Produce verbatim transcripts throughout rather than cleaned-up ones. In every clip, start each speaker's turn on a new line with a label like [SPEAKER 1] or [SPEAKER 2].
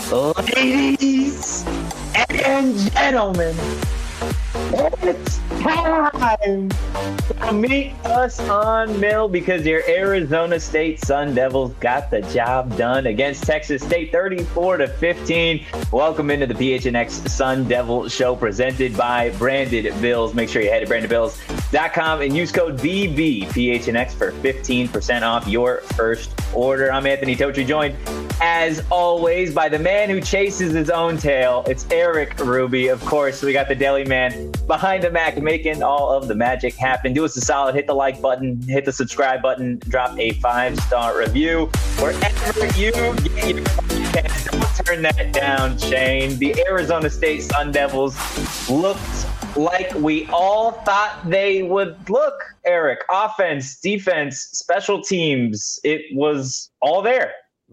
[SPEAKER 1] Ladies and gentlemen, it's time to meet us on Mill because your Arizona State Sun Devils got the job done against Texas State thirty-four to fifteen. Welcome into the P H N X Sun Devil Show presented by Branded Bills. Make sure you head to branded bills dot com and use code B B P H N X for fifteen percent off your first order. I'm Anthony Totri, joined as always by the man who chases his own tail. It's Eric Ruby. Of course, we got the deli man behind the Mac making all of the magic happen. Do us a solid, hit the like button, hit the subscribe button, drop a five-star review wherever you get your podcast. Don't turn that down, Shane. The Arizona State Sun Devils looked like we all thought they would look, Eric. Offense, defense, special teams, it was all there.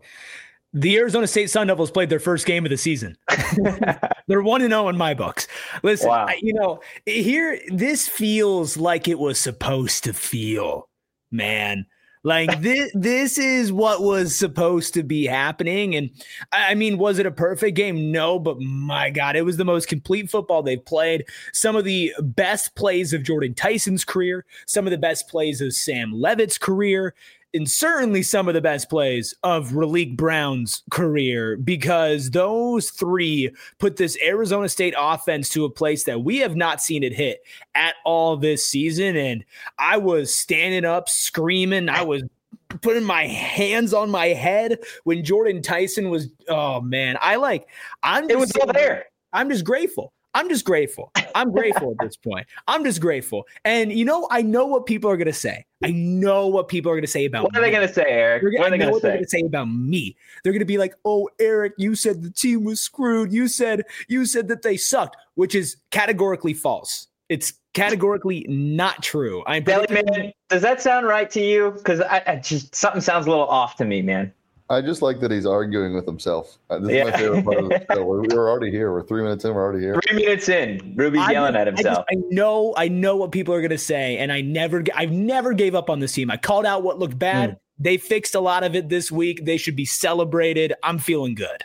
[SPEAKER 2] The Arizona State Sun Devils played their first game of the season. They're one and oh in my books. Listen,
[SPEAKER 1] wow.
[SPEAKER 2] I, you know, here, this feels like it was supposed to feel, man. Like this, this is what was supposed to be happening. And I mean, was it a perfect game? No, but my God, it was the most complete football they've played. Some of the best plays of Jordan Tyson's career, some of the best plays of Sam Levitt's career, and certainly some of the best plays of Raleek Brown's career, because those three put this Arizona State offense to a place that we have not seen it hit at all this season. And I was standing up, screaming. I was putting my hands on my head when Jordan Tyson was, oh man, I like, I'm just,
[SPEAKER 1] it was all there.
[SPEAKER 2] I'm just grateful. I'm just grateful. I'm grateful at this point. I'm just grateful. And, you know, I know what people are going to say. I know what people are going to say about
[SPEAKER 1] me. What are
[SPEAKER 2] me.
[SPEAKER 1] they going to say, Eric?
[SPEAKER 2] They're,
[SPEAKER 1] what are they going to say?
[SPEAKER 2] They're going to say about me. They're going to be like, oh, Eric, you said the team was screwed. You said you said that they sucked, which is categorically false. It's categorically not true. I'm
[SPEAKER 1] Belly man, does that sound right to you? Because I, I just something sounds a little off to me, man.
[SPEAKER 3] I just like that he's arguing with himself. This
[SPEAKER 1] yeah.
[SPEAKER 3] is my favorite part of the show. We're, we're already here. We're three minutes in. We're already here.
[SPEAKER 1] Three minutes in. Ruby's
[SPEAKER 2] I
[SPEAKER 1] yelling
[SPEAKER 2] just,
[SPEAKER 1] at himself.
[SPEAKER 2] I, just, I know. I know what people are going to say, and I never. I've never gave up on this team. I called out what looked bad. Mm. They fixed a lot of it this week. They should be celebrated. I'm feeling good.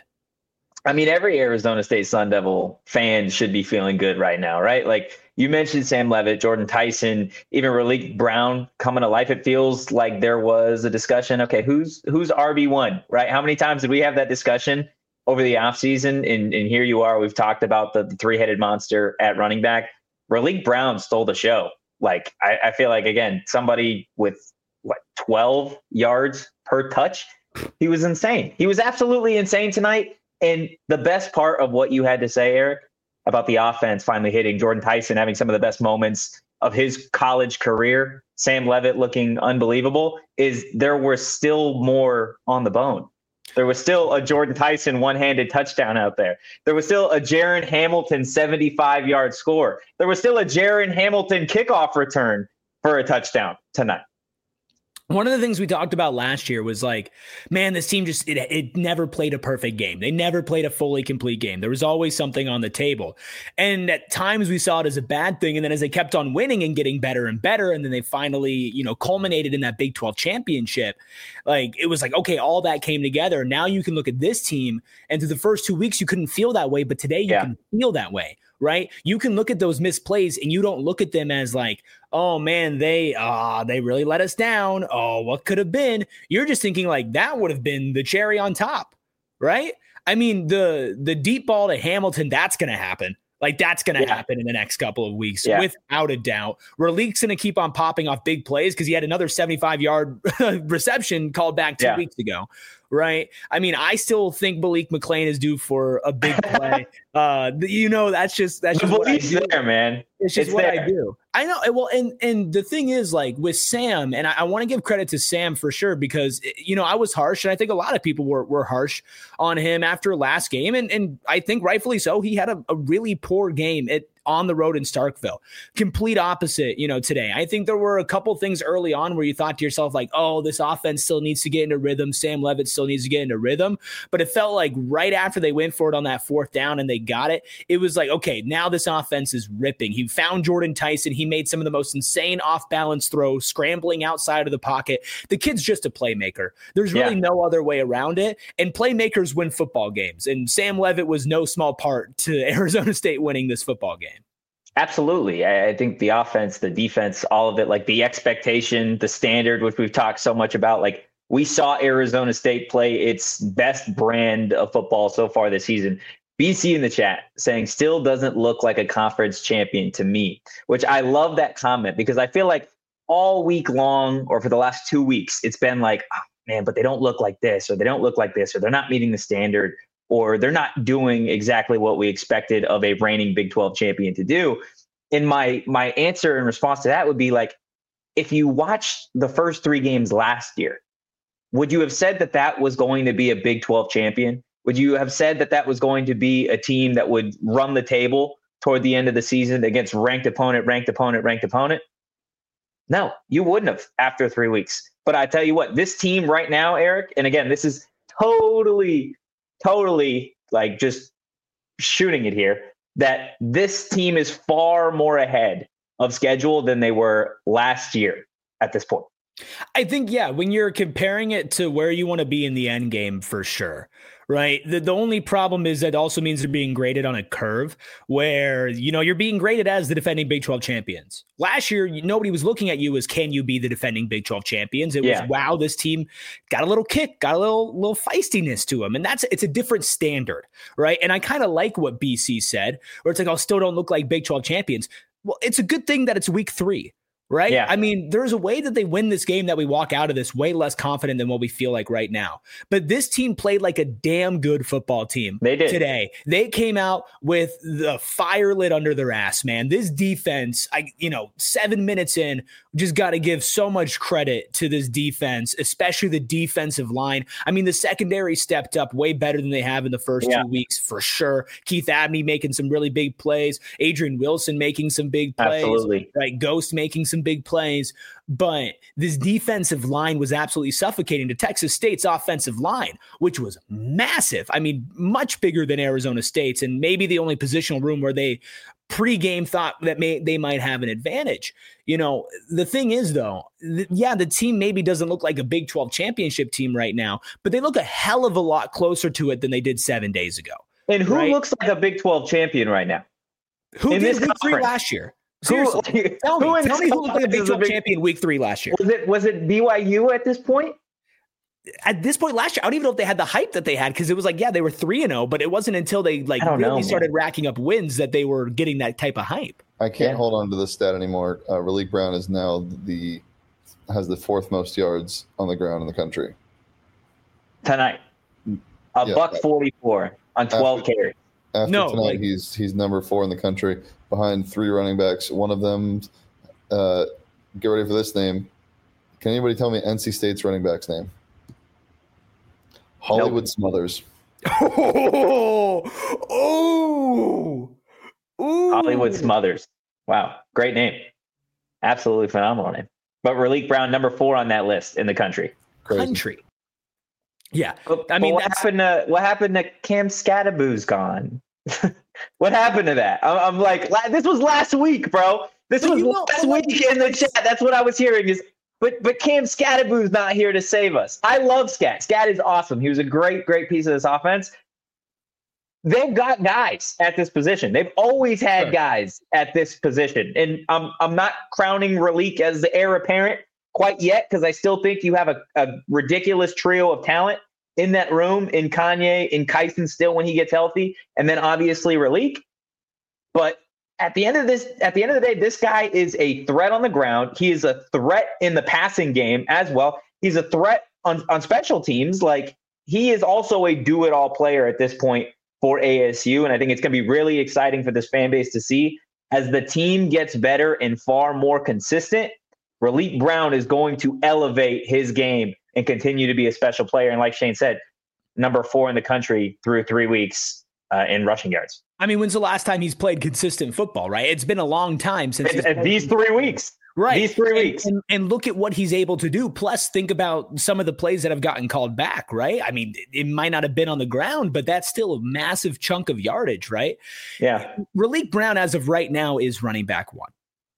[SPEAKER 1] I mean, every Arizona State Sun Devil fan should be feeling good right now, right? Like you mentioned Sam Levitt, Jordan Tyson, even Raleek Brown coming to life. It feels like there was a discussion. Okay, who's who's R B one, right? How many times did we have that discussion over the offseason? And, and here you are. We've talked about the, the three-headed monster at running back. Raleek Brown stole the show. Like, I, I feel like, again, somebody with, what, twelve yards per touch? He was insane. He was absolutely insane tonight. And the best part of what you had to say, Eric, about the offense finally hitting, Jordan Tyson having some of the best moments of his college career, Sam Levitt looking unbelievable, is there were still more on the bone. There was still a Jordan Tyson one-handed touchdown out there. There was still a Jaron Hamilton seventy-five-yard score. There was still a Jaron Hamilton kickoff return for a touchdown tonight.
[SPEAKER 2] One of the things we talked about last year was like, man, this team just, it, it never played a perfect game. They never played a fully complete game. There was always something on the table. And at times we saw it as a bad thing. And then as they kept on winning and getting better and better, and then they finally, you know, culminated in that Big twelve championship, like it was like, okay, all that came together. Now you can look at this team, and through the first two weeks, you couldn't feel that way. But today you yeah. can feel that way. Right? You can look at those missed plays and you don't look at them as like, oh man, they uh they really let us down. Oh, what could have been? You're just thinking like that would have been the cherry on top, right? I mean, the the deep ball to Hamilton, that's gonna happen. Like that's going to yeah. happen in the next couple of weeks, yeah. without a doubt. Raleek's going to keep on popping off big plays because he had another seventy-five-yard reception called back two yeah. weeks ago, right? I mean, I still think Malik McClain is due for a big play. uh, you know, that's just that's just what I do.
[SPEAKER 1] There, man.
[SPEAKER 2] It's just
[SPEAKER 1] it's
[SPEAKER 2] what
[SPEAKER 1] there.
[SPEAKER 2] I do. I know. Well, and and the thing is, like with Sam, and I, I want to give credit to Sam for sure because you know I was harsh, and I think a lot of people were were harsh on him after last game, and and I think rightfully so. He had a, a really poor game. It on the road in Starkville. Complete opposite, you know, today. I think there were a couple things early on where you thought to yourself, like, oh, this offense still needs to get into rhythm. Sam Levitt still needs to get into rhythm. But it felt like right after they went for it on that fourth down and they got it, it was like, okay, now this offense is ripping. He found Jordan Tyson. He made some of the most insane off-balance throws, scrambling outside of the pocket. The kid's just a playmaker. There's really yeah. no other way around it. And playmakers win football games. And Sam Levitt was no small part to Arizona State winning this football game.
[SPEAKER 1] Absolutely. I think the offense, the defense, all of it, like the expectation, the standard, which we've talked so much about, like we saw Arizona State play its best brand of football so far this season. B C in the chat saying still doesn't look like a conference champion to me, which I love that comment because I feel like all week long or for the last two weeks, it's been like, oh, man, but they don't look like this, or they don't look like this, or they're not meeting the standard, or they're not doing exactly what we expected of a reigning Big twelve champion to do. And my my answer in response to that would be like, if you watched the first three games last year, would you have said that that was going to be a Big twelve champion? Would you have said that that was going to be a team that would run the table toward the end of the season against ranked opponent, ranked opponent, ranked opponent? No, you wouldn't have after three weeks. But I tell you what, this team right now, Eric, and again, this is totally, totally like just shooting it here, that this team is far more ahead of schedule than they were last year at this point.
[SPEAKER 2] I think, yeah, when you're comparing it to where you want to be in the end game, for sure, right? The, the only problem is that also means they're being graded on a curve where, you know, you're being graded as the defending Big twelve champions. Last year, nobody was looking at you as, can you be the defending Big twelve champions? It yeah. was, wow, this team got a little kick, got a little, little feistiness to them. And that's, it's a different standard, right? And I kind of like what B C said, where it's like, oh, still don't look like Big twelve champions. Well, it's a good thing that it's week three. Right.
[SPEAKER 1] Yeah.
[SPEAKER 2] I mean, there's a way that they win this game that we walk out of this way less confident than what we feel like right now. But this team played like a damn good football team
[SPEAKER 1] they did.
[SPEAKER 2] today. They came out with the fire lit under their ass, man. This defense, I, you know, seven minutes in, just got to give so much credit to this defense, especially the defensive line. I mean, the secondary stepped up way better than they have in the first yeah. two weeks for sure. Keith Abney making some really big plays. Adrian Wilson making some big plays.
[SPEAKER 1] Absolutely.
[SPEAKER 2] Right. Ghost making some big plays, but this defensive line was absolutely suffocating to Texas State's offensive line, which was massive. I mean, much bigger than Arizona State's, and maybe the only positional room where they pregame thought that may they might have an advantage. You know, the thing is, though, th- yeah, the team maybe doesn't look like a Big twelve championship team right now, but they look a hell of a lot closer to it than they did seven days ago.
[SPEAKER 1] And who
[SPEAKER 2] right?
[SPEAKER 1] looks like a Big twelve champion right now?
[SPEAKER 2] Who
[SPEAKER 1] in
[SPEAKER 2] did
[SPEAKER 1] this
[SPEAKER 2] week three
[SPEAKER 1] conference?
[SPEAKER 2] last year? Seriously,
[SPEAKER 1] who,
[SPEAKER 2] tell me,
[SPEAKER 1] who
[SPEAKER 2] tell me who looked like a Big twelve
[SPEAKER 1] big,
[SPEAKER 2] champion week three last year.
[SPEAKER 1] Was it was it B Y U at this point?
[SPEAKER 2] At this point last year, I don't even know if they had the hype that they had, because it was like, yeah, they were three and oh, but it wasn't until they like really
[SPEAKER 1] know,
[SPEAKER 2] started racking up wins that they were getting that type of hype.
[SPEAKER 3] I can't
[SPEAKER 1] yeah.
[SPEAKER 3] hold on to this stat anymore. Uh, Raleek Brown is now the has the fourth most yards on the ground in the country
[SPEAKER 1] tonight. A
[SPEAKER 3] yeah,
[SPEAKER 1] buck forty-four on twelve
[SPEAKER 3] after,
[SPEAKER 1] carries.
[SPEAKER 3] After
[SPEAKER 2] no,
[SPEAKER 3] tonight,
[SPEAKER 2] like,
[SPEAKER 3] he's he's number four in the country behind three running backs. One of them, uh, get ready for this name. Can anybody tell me N C State's running back's name? Hollywood nope. Smothers.
[SPEAKER 2] Oh, oh, oh.
[SPEAKER 1] Hollywood Smothers. Wow. Great name. Absolutely phenomenal name. But Raleek Brown, number four on that list in the country.
[SPEAKER 3] Crazy.
[SPEAKER 2] Country. Yeah.
[SPEAKER 1] But,
[SPEAKER 2] I mean,
[SPEAKER 1] what happened to what happened to Cam Scattaboo's gone? What happened to that? I'm, I'm like, this was last week, bro. This but was you know, last week in the chat. That's what I was hearing is, but but Cam Scattaboo's not here to save us. I love Scat. Scat is awesome. He was a great, great piece of this offense. They've got guys at this position. They've always had sure. guys at this position. And I'm I'm not crowning Raleek as the heir apparent quite yet, because I still think you have a, a ridiculous trio of talent in that room, in Kanye, in Kyson still when he gets healthy, and then obviously Raleek. But at the end of this, at the end of the day, this guy is a threat on the ground. He is a threat in the passing game as well. He's a threat on, on special teams. Like, he is also a do-it-all player at this point for A S U, and I think it's going to be really exciting for this fan base to see. As the team gets better and far more consistent, Raleek Brown is going to elevate his game and continue to be a special player. And like Shane said, number four in the country through three weeks uh, in rushing yards.
[SPEAKER 2] I mean, when's the last time he's played consistent football, right? It's been a long time since he's
[SPEAKER 1] played these three weeks.
[SPEAKER 2] Right.
[SPEAKER 1] These three weeks.
[SPEAKER 2] And, and, and look at what he's able to do. Plus, think about some of the plays that have gotten called back, right? I mean, it might not have been on the ground, but that's still a massive chunk of yardage, right?
[SPEAKER 1] Yeah.
[SPEAKER 2] Raleek Brown, as of right now, is running back one.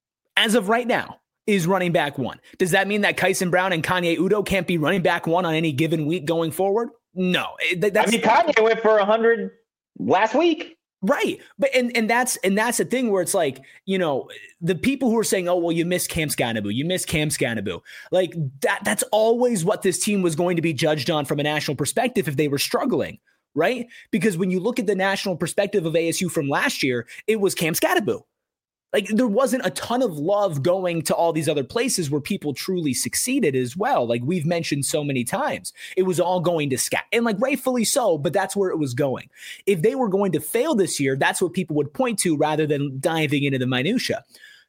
[SPEAKER 2] As of right now, is running back one. Does that mean that Kyson Brown and Kanye Udoh can't be running back one on any given week going forward? No. That's,
[SPEAKER 1] I mean, Kanye went for one hundred last week.
[SPEAKER 2] Right. But and and that's and that's the thing where it's like, you know, the people who are saying, oh, well, you missed Cam Scannaboo, you missed Cam Scannaboo. Like that, that's always what this team was going to be judged on from a national perspective if they were struggling, right? Because when you look at the national perspective of A S U from last year, it was Cam Scannaboo. Like there wasn't a ton of love going to all these other places where people truly succeeded as well. Like we've mentioned so many times, it was all going to Scat, and like rightfully so, but that's where it was going. If they were going to fail this year, that's what people would point to rather than diving into the minutia.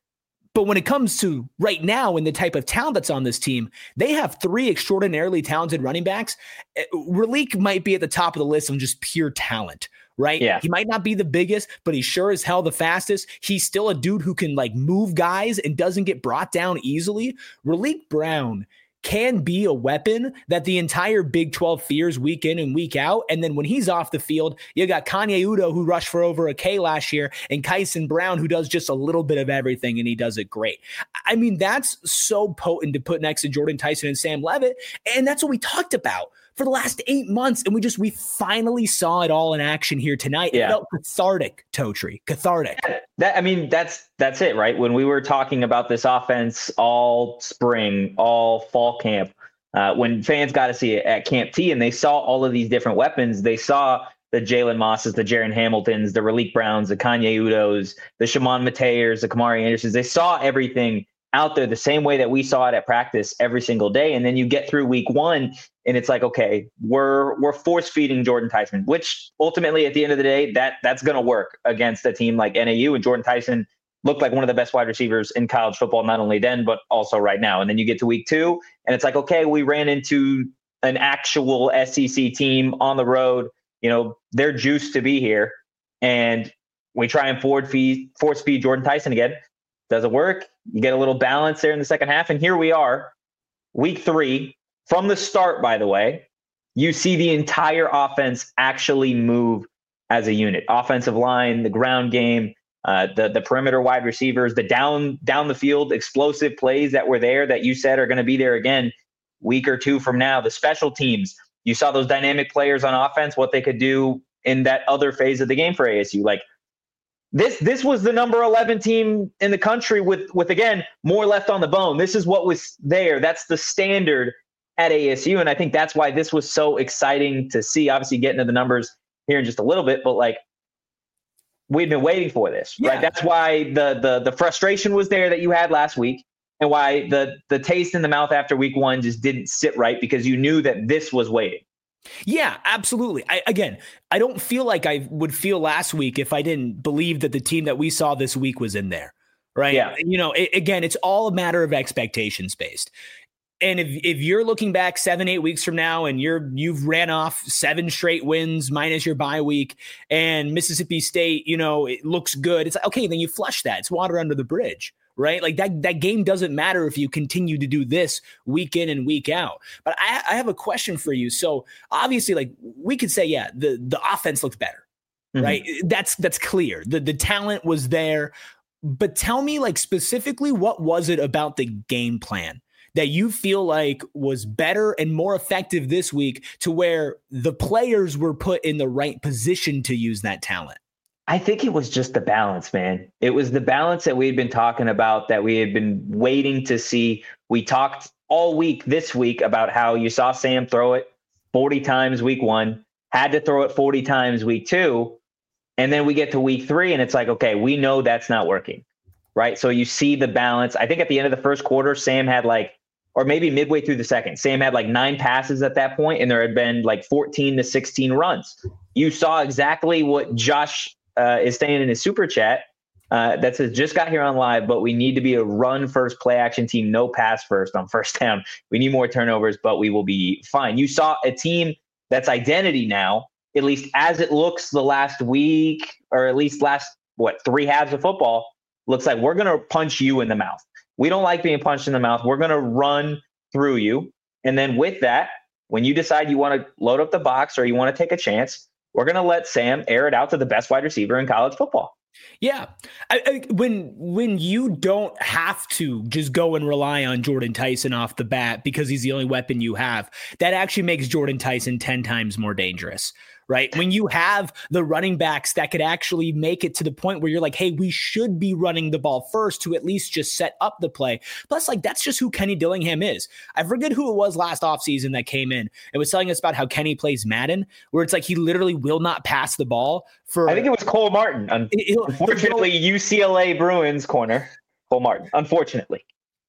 [SPEAKER 2] But when it comes to right now and the type of talent that's on this team, they have three extraordinarily talented running backs. Raleek might be at the top of the list on just pure talent. Right?
[SPEAKER 1] Yeah.
[SPEAKER 2] He might not be the biggest, but he's sure as hell the fastest. He's still a dude who can like move guys and doesn't get brought down easily. Raleek Brown can be a weapon that the entire Big twelve fears week in and week out. And then when he's off the field, you got Kanye Udoh, who rushed for over a K last year, and Kyson Brown, who does just a little bit of everything, and he does it great. I mean, that's so potent to put next to Jordan Tyson and Sam Levitt. And that's what we talked about for the last eight months. And we just, we finally saw it all in action here tonight.
[SPEAKER 1] Yeah.
[SPEAKER 2] It felt cathartic, Totri, cathartic.
[SPEAKER 1] That, I mean, that's, that's it, right? When we were talking about this offense all spring, all fall camp, uh, when fans got to see it at Camp T and they saw all of these different weapons, they saw the Jalen Mosses, the Jaron Hamiltons, the Raleek Browns, the Kanye Udohs, the Shimon Mateers, the Kamari Andersons. They saw everything out there the same way that we saw it at practice every single day. And then you get through week one and it's like, okay, we're we're force feeding Jordan Tyson, which ultimately at the end of the day, that that's going to work against a team like N A U. And Jordan Tyson looked like one of the best wide receivers in college football, not only then, but also right now. And then you get to week two and it's like, okay, we ran into an actual S E C team on the road. You know, they're juiced to be here. And we try and forward feed, force feed Jordan Tyson again. Doesn't work. You get a little balance there in the second half. And here we are, week three. From the start, by the way, you see the entire offense actually move as a unit. Offensive line, the ground game, uh, the, the perimeter wide receivers, the down, down the field explosive plays that were there that you said are going to be there again week or two from now. The special teams, you saw those dynamic players on offense, what they could do in that other phase of the game for A S U. Like, This this was the number eleven team in the country with, with, again, more left on the bone. This is what was there. That's the standard at A S U. And I think that's why this was so exciting to see. Obviously, get into the numbers here in just a little bit, but like we've been waiting for this, yeah. right? That's why the the the frustration was there that you had last week, and why the the taste in the mouth after week one just didn't sit right, because you knew that this was waiting.
[SPEAKER 2] Yeah, absolutely. I, again, I don't feel like I would feel last week if I didn't believe that the team that we saw this week was in there, right?
[SPEAKER 1] Yeah.
[SPEAKER 2] You know, it, again, it's all a matter of expectations based. And if if you're looking back seven, eight weeks from now and you're you've ran off seven straight wins minus your bye week, and Mississippi State, you know, it looks good, it's like, okay, then you flush that. It's water under the bridge. Right? Like that, that game doesn't matter if you continue to do this week in and week out. But I, I have a question for you. So obviously, like we could say, yeah, the, the offense looked better, mm-hmm. right? That's, that's clear. The, the talent was there, but tell me like specifically, what was it about the game plan that you feel like was better and more effective this week to where the players were put in the right position to use that talent?
[SPEAKER 1] I think it was just the balance, man. It was the balance that we had been talking about, that we had been waiting to see. We talked all week this week about how you saw Sam throw it forty times week one, had to throw it forty times week two. And then we get to week three and it's like, okay, we know that's not working, right? So you see the balance. I think at the end of the first quarter, Sam had like, or maybe midway through the second, Sam had like nine passes at that point, and there had been like fourteen to sixteen runs. You saw exactly what Josh Uh, is staying in his super chat uh, that says, just got here on live, but we need to be a run first play action team, no pass first on first down. We need more turnovers, but we will be fine. You saw a team that's identity now at least as it looks the last week, or at least last, what, three halves of football, looks like we're going to punch you in the mouth. We don't like being punched in the mouth. We're going to run through you. And then with that, when you decide you want to load up the box or you want to take a chance, we're going to let Sam air it out to the best wide receiver in college football.
[SPEAKER 2] Yeah. I, I, when when you don't have to just go and rely on Jordan Tyson off the bat because he's the only weapon you have, that actually makes Jordan Tyson ten times more dangerous. Right. When you have the running backs that could actually make it to the point where you're like, hey, we should be running the ball first to at least just set up the play. Plus, like, that's just who Kenny Dillingham is. I forget who it was last offseason that came in and was telling us about how Kenny plays Madden, where it's like he literally will not pass the ball for.
[SPEAKER 1] I think it was Cole Martin. Unfortunately, U C L A Bruins corner, Cole Martin, unfortunately.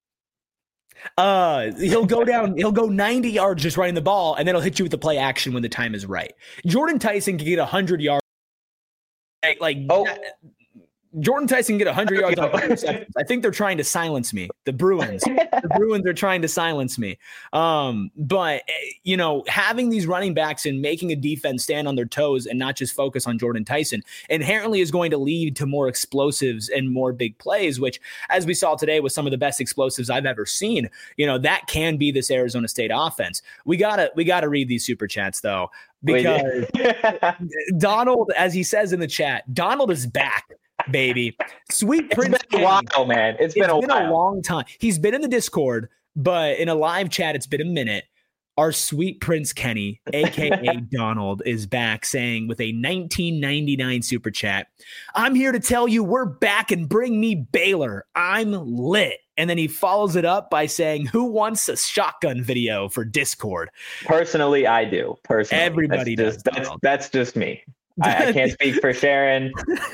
[SPEAKER 2] Uh, he'll go down, he'll go ninety yards just running the ball, and then he'll hit you with the play action when the time is right. Jordan Tyson can get one hundred yards. Like, like
[SPEAKER 1] oh.
[SPEAKER 2] that, Jordan Tyson can get one hundred yards on thirty seconds. I think they're trying to silence me. The Bruins. the Bruins are trying to silence me. Um, but, you know, having these running backs and making a defense stand on their toes and not just focus on Jordan Tyson inherently is going to lead to more explosives and more big plays, which, as we saw today, was some of the best explosives I've ever seen. You know, that can be this Arizona State offense. We gotta, we gotta read these super chats though, because Donald, as he says in the chat, Donald is back. Baby, sweet Prince.
[SPEAKER 1] It's been a while, man. It's been,
[SPEAKER 2] it's
[SPEAKER 1] a,
[SPEAKER 2] been
[SPEAKER 1] while.
[SPEAKER 2] a long time. He's been in the Discord, but in a live chat, it's been a minute. Our sweet Prince Kenny, aka Donald, is back saying with a nineteen ninety-nine super chat, I'm here to tell you we're back and bring me Baylor. I'm lit. And then he follows it up by saying, who wants a shotgun video for Discord?
[SPEAKER 1] Personally, I do. Personally,
[SPEAKER 2] everybody
[SPEAKER 1] that's
[SPEAKER 2] does.
[SPEAKER 1] Just, that's, that's just me. I, I can't speak for Sharon.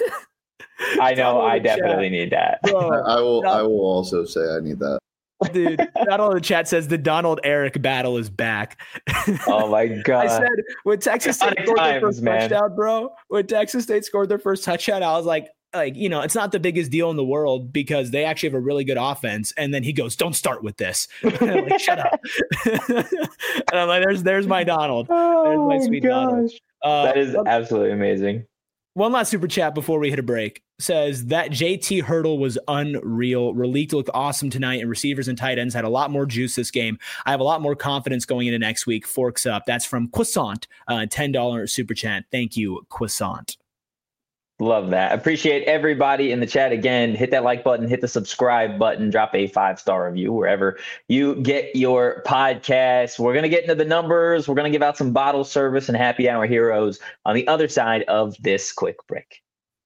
[SPEAKER 1] I know I definitely chat. need that.
[SPEAKER 3] Bro, I will I will also say I need that.
[SPEAKER 2] Dude, Donald in the chat says the Donald Eric battle is back.
[SPEAKER 1] Oh my God.
[SPEAKER 2] I said when Texas State scored
[SPEAKER 1] times,
[SPEAKER 2] their first
[SPEAKER 1] man.
[SPEAKER 2] touchdown, bro. When Texas State scored their first touchdown, I was like, like, you know, it's not the biggest deal in the world because they actually have a really good offense. And then he goes, don't start with this. I'm like, shut up. And I'm like, there's there's my Donald.
[SPEAKER 1] Oh
[SPEAKER 2] there's my sweet
[SPEAKER 1] gosh.
[SPEAKER 2] Donald. Uh,
[SPEAKER 1] that is absolutely amazing.
[SPEAKER 2] One last super chat before we hit a break says that J T hurdle was unreal. Raleigh looked awesome tonight, and receivers and tight ends had a lot more juice this game. I have a lot more confidence going into next week. Forks up. That's from Croissant, uh, ten dollars super chat. Thank you, Croissant.
[SPEAKER 1] Love that. Appreciate everybody in the chat. Again, hit that like button, hit the subscribe button, drop a five-star review wherever you get your podcast. We're going to get into the numbers. We're going to give out some bottle service and happy hour heroes on the other side of this quick break.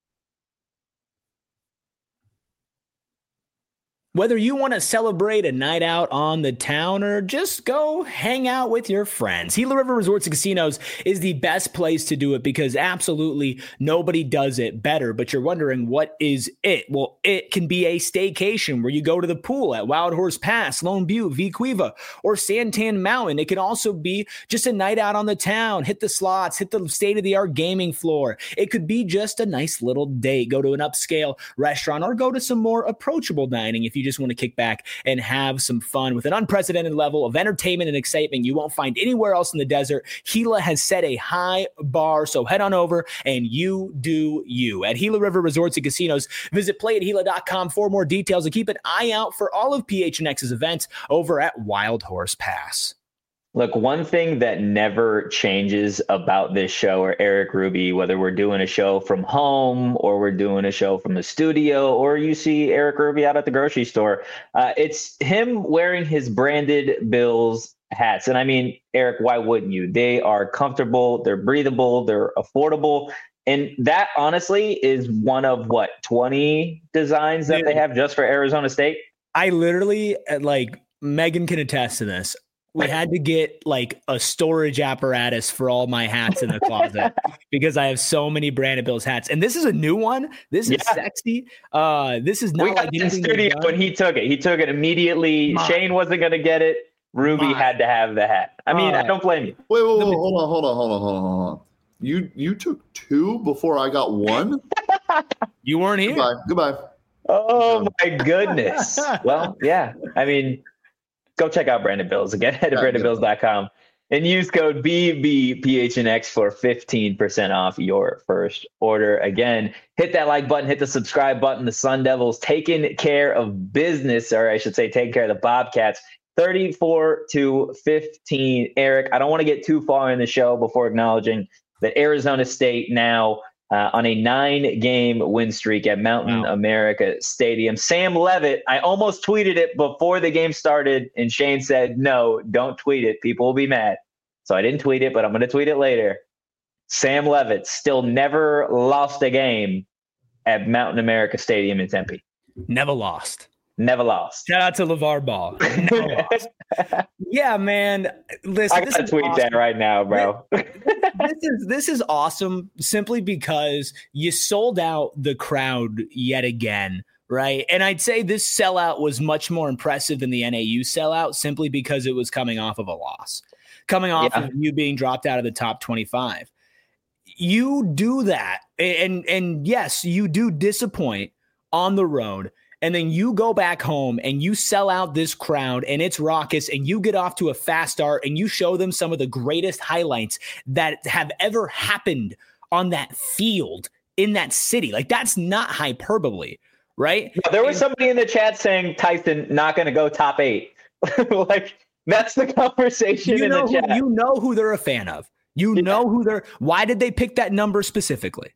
[SPEAKER 2] Whether you want to celebrate a night out on the town or just go hang out with your friends, Gila River Resorts and Casinos is the best place to do it because absolutely nobody does it better. But you're wondering, what is it? Well, it can be a staycation where you go to the pool at Wild Horse Pass, Lone Butte, V Cueva, or Santan Mountain. It can also be just a night out on the town, hit the slots, hit the state-of-the-art gaming floor. It could be just a nice little date, go to an upscale restaurant or go to some more approachable dining if you just want to kick back and have some fun with an unprecedented level of entertainment and excitement you won't find anywhere else in the desert. Gila has set a high bar, so head on over and you do you. At Gila River Resorts and Casinos, visit play at gila dot com for more details and keep an eye out for all of P H N X's events over at Wild Horse Pass.
[SPEAKER 1] Look, one thing that never changes about this show or Eric Ruby, whether we're doing a show from home or we're doing a show from the studio or you see Eric Ruby out at the grocery store, uh, it's him wearing his branded Bills hats. And I mean, Eric, why wouldn't you? They are comfortable, they're breathable, they're affordable. And that honestly is one of what, twenty designs that Dude, they have just for Arizona State?
[SPEAKER 2] I literally, like, Megan can attest to this. We had to get like a storage apparatus for all my hats in the closet because I have so many Brandon Bills hats. And this is a new one. This is yeah. sexy. Uh, this is not
[SPEAKER 1] we got
[SPEAKER 2] like
[SPEAKER 1] in studio when he took it. He took it immediately. My. Shane wasn't going to get it. Ruby My. had to have the hat. I mean, uh, I don't blame you.
[SPEAKER 3] Wait, wait, wait, hold on, hold on, hold on, hold on, hold on. You you took two before I got one?
[SPEAKER 2] You weren't here.
[SPEAKER 3] Goodbye. Goodbye.
[SPEAKER 1] Oh my goodness. Well, yeah. I mean, go check out Brandon Bills again at
[SPEAKER 3] yeah,
[SPEAKER 1] brandon bills dot com. And use code B B P H N X for fifteen percent off your first order. Again, hit that like button, hit the subscribe button. The Sun Devils taking care of business, or I should say taking care of the Bobcats, thirty-four to fifteen. Eric, I don't want to get too far in the show before acknowledging that Arizona State now uh, on a nine-game win streak at Mountain wow. America Stadium. Sam Levitt, I almost tweeted it before the game started, and Shane said, no, don't tweet it. People will be mad. So I didn't tweet it, but I'm going to tweet it later. Sam Levitt still never lost a game at Mountain America Stadium in Tempe.
[SPEAKER 2] Never lost.
[SPEAKER 1] Never lost.
[SPEAKER 2] Shout out to LeVar Ball. Never lost. Yeah, man. Listen,
[SPEAKER 1] I gotta tweet awesome. that right now, bro.
[SPEAKER 2] this is this is awesome simply because you sold out the crowd yet again, right? And I'd say this sellout was much more impressive than the N A U sellout simply because it was coming off of a loss, coming off yeah. of you being dropped out of the top twenty-five. You do that, and and yes, you do disappoint on the road. And then you go back home and you sell out this crowd and it's raucous and you get off to a fast start and you show them some of the greatest highlights that have ever happened on that field in that city. Like, that's not hyperbole, right?
[SPEAKER 1] No, there was somebody in the chat saying Tyson not going to go top eight. Like, that's the conversation
[SPEAKER 2] you
[SPEAKER 1] in
[SPEAKER 2] know
[SPEAKER 1] the chat.
[SPEAKER 2] Who, you know who they're a fan of. You yeah. know who they're – why did they pick that number specifically?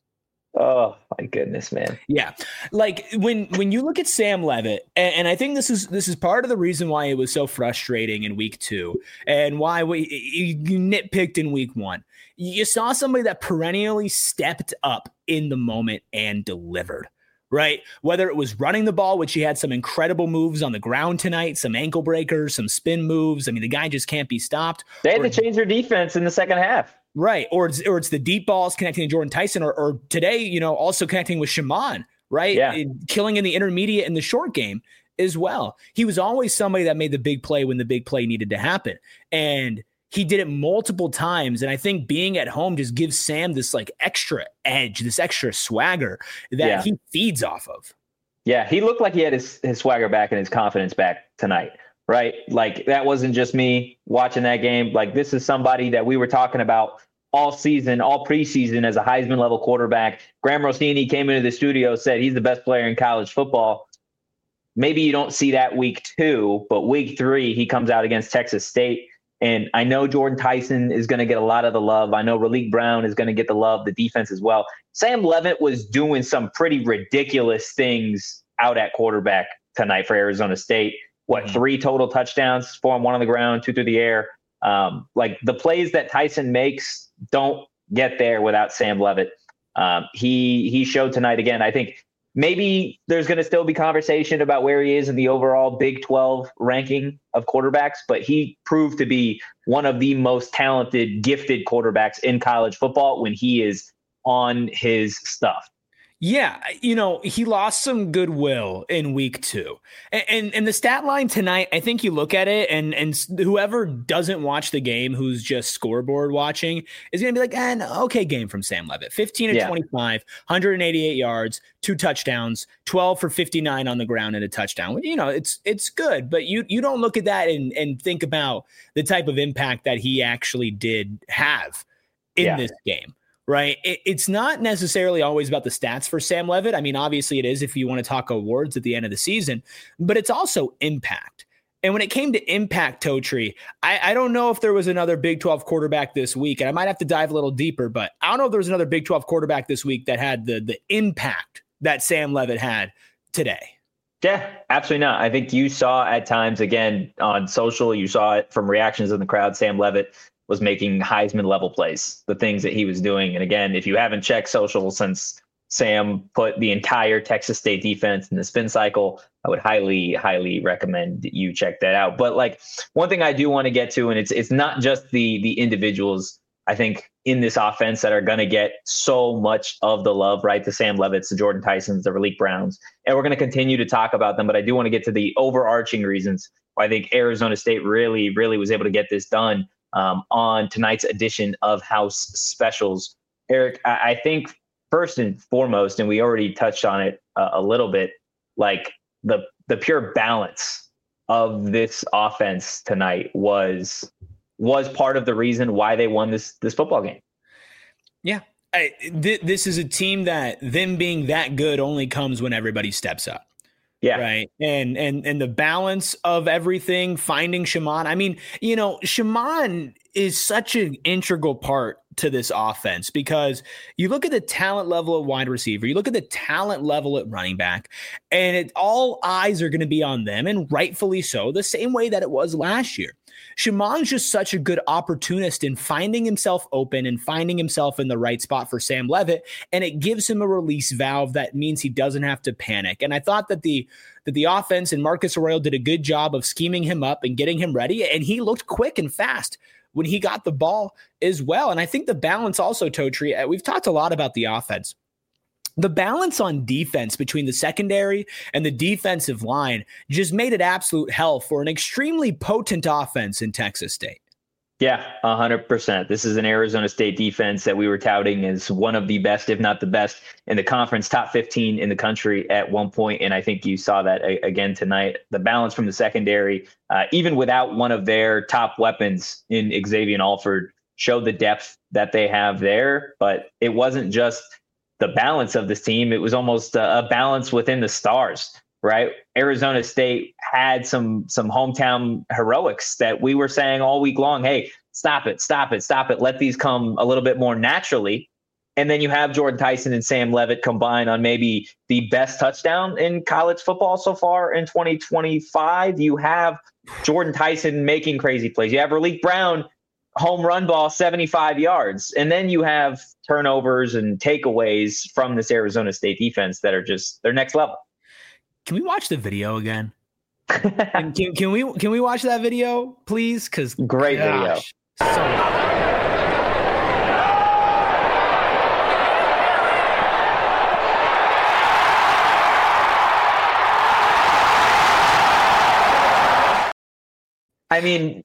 [SPEAKER 1] Oh my goodness, man.
[SPEAKER 2] Yeah. Like when, when you look at Sam Levitt, and, and I think this is, this is part of the reason why it was so frustrating in week two and why we you nitpicked in week one. You saw somebody that perennially stepped up in the moment and delivered, right? Whether it was running the ball, which he had some incredible moves on the ground tonight, some ankle breakers, some spin moves. I mean, the guy just can't be stopped.
[SPEAKER 1] They had
[SPEAKER 2] or,
[SPEAKER 1] to change their defense in the second half.
[SPEAKER 2] Right. Or it's, or it's the deep balls connecting to Jordan Tyson, or, or today, you know, also connecting with Shaman, right?
[SPEAKER 1] Yeah.
[SPEAKER 2] And killing in the intermediate and the short game as well. He was always somebody that made the big play when the big play needed to happen. And he did it multiple times. And I think being at home just gives Sam this like extra edge, this extra swagger that yeah. he feeds off of.
[SPEAKER 1] Yeah. He looked like he had his, his swagger back and his confidence back tonight. Right. Like, that wasn't just me watching that game. Like, this is somebody that we were talking about all season, all preseason as a Heisman level quarterback. Graham Rossini came into the studio, said he's the best player in college football. Maybe you don't see that week two, but week three, he comes out against Texas State. And I know Jordan Tyson is going to get a lot of the love. I know Raleek Brown is going to get the love, the defense as well. Sam Levitt was doing some pretty ridiculous things out at quarterback tonight for Arizona State. What, mm-hmm. three total touchdowns, four on one on the ground, two through the air. Um, like, the plays that Tyson makes don't get there without Sam Levitt. Um, he he showed tonight again. I think maybe there's going to still be conversation about where he is in the overall Big twelve ranking of quarterbacks, but he proved to be one of the most talented, gifted quarterbacks in college football when he is on his stuff.
[SPEAKER 2] Yeah, you know, he lost some goodwill in week two. And, and and the stat line tonight, I think you look at it, and and whoever doesn't watch the game, who's just scoreboard watching, is going to be like, eh, no, okay game from Sam Levitt. fifteen and twenty-five, one hundred eighty-eight yards, two touchdowns, twelve for fifty-nine on the ground and a touchdown. You know, it's it's good, but you you don't look at that and, and think about the type of impact that he actually did have in yeah. this game. Right. It, it's not necessarily always about the stats for Sam Levitt. I mean, obviously it is if you want to talk awards at the end of the season, but it's also impact. And when it came to impact, Totri, I, I don't know if there was another Big twelve quarterback this week, and I might have to dive a little deeper, but I don't know if there was another Big twelve quarterback this week that had the the impact that Sam Levitt had today.
[SPEAKER 1] Yeah, absolutely not. I think you saw at times, again, on social, you saw it from reactions in the crowd, Sam Levitt was making Heisman level plays, the things that he was doing. And again, if you haven't checked social since Sam put the entire Texas State defense in the spin cycle, I would highly, highly recommend you check that out. But like, one thing I do want to get to, and it's it's not just the the individuals, I think, in this offense that are going to get so much of the love, right? The Sam Levitts, the Jordan Tysons, the Raleek Browns. And we're going to continue to talk about them. But I do want to get to the overarching reasons why I think Arizona State really, really was able to get this done um, on tonight's edition of House Specials. Eric, I, I think first and foremost, and we already touched on it uh, a little bit, like the the pure balance of this offense tonight was was part of the reason why they won this this football game.
[SPEAKER 2] Yeah. I, th- this is a team that them being that good only comes when everybody steps up.
[SPEAKER 1] Yeah.
[SPEAKER 2] Right. And and and the balance of everything, finding Shaman. I mean, you know, Shaman is such an integral part to this offense because you look at the talent level at wide receiver, you look at the talent level at running back, and it all eyes are going to be on them, and rightfully so, the same way that it was last year. Shaman's just such a good opportunist in finding himself open and finding himself in the right spot for Sam Levitt, and it gives him a release valve that means he doesn't have to panic. And I thought that the that the offense and Marcus Arroyo did a good job of scheming him up and getting him ready, and he looked quick and fast when he got the ball as well. And I think the balance also, Totri, we've talked a lot about the offense. The balance on defense between the secondary and the defensive line just made it absolute hell for an extremely potent offense in Texas State.
[SPEAKER 1] Yeah, one hundred percent. This is an Arizona State defense that we were touting as one of the best, if not the best, in the conference, top fifteen in the country at one point. And I think you saw that a- again tonight. The balance from the secondary, uh, even without one of their top weapons in Xavier Alford, showed the depth that they have there. But it wasn't just the balance of this team. It was almost a, a balance within the stars, right? Arizona State had some some hometown heroics that we were saying all week long, hey, stop it, stop it, stop it. Let these come a little bit more naturally. And then you have Jordan Tyson and Sam Levitt combine on maybe the best touchdown in college football so far in twenty twenty-five. You have Jordan Tyson making crazy plays. You have Raleek Brown home run ball seventy-five yards. And then you have turnovers and takeaways from this Arizona State defense that are just their next level.
[SPEAKER 2] Can we watch the video again? can, can, can we can we watch that video, please? Because
[SPEAKER 1] great
[SPEAKER 2] gosh,
[SPEAKER 1] video.
[SPEAKER 2] So
[SPEAKER 1] I mean,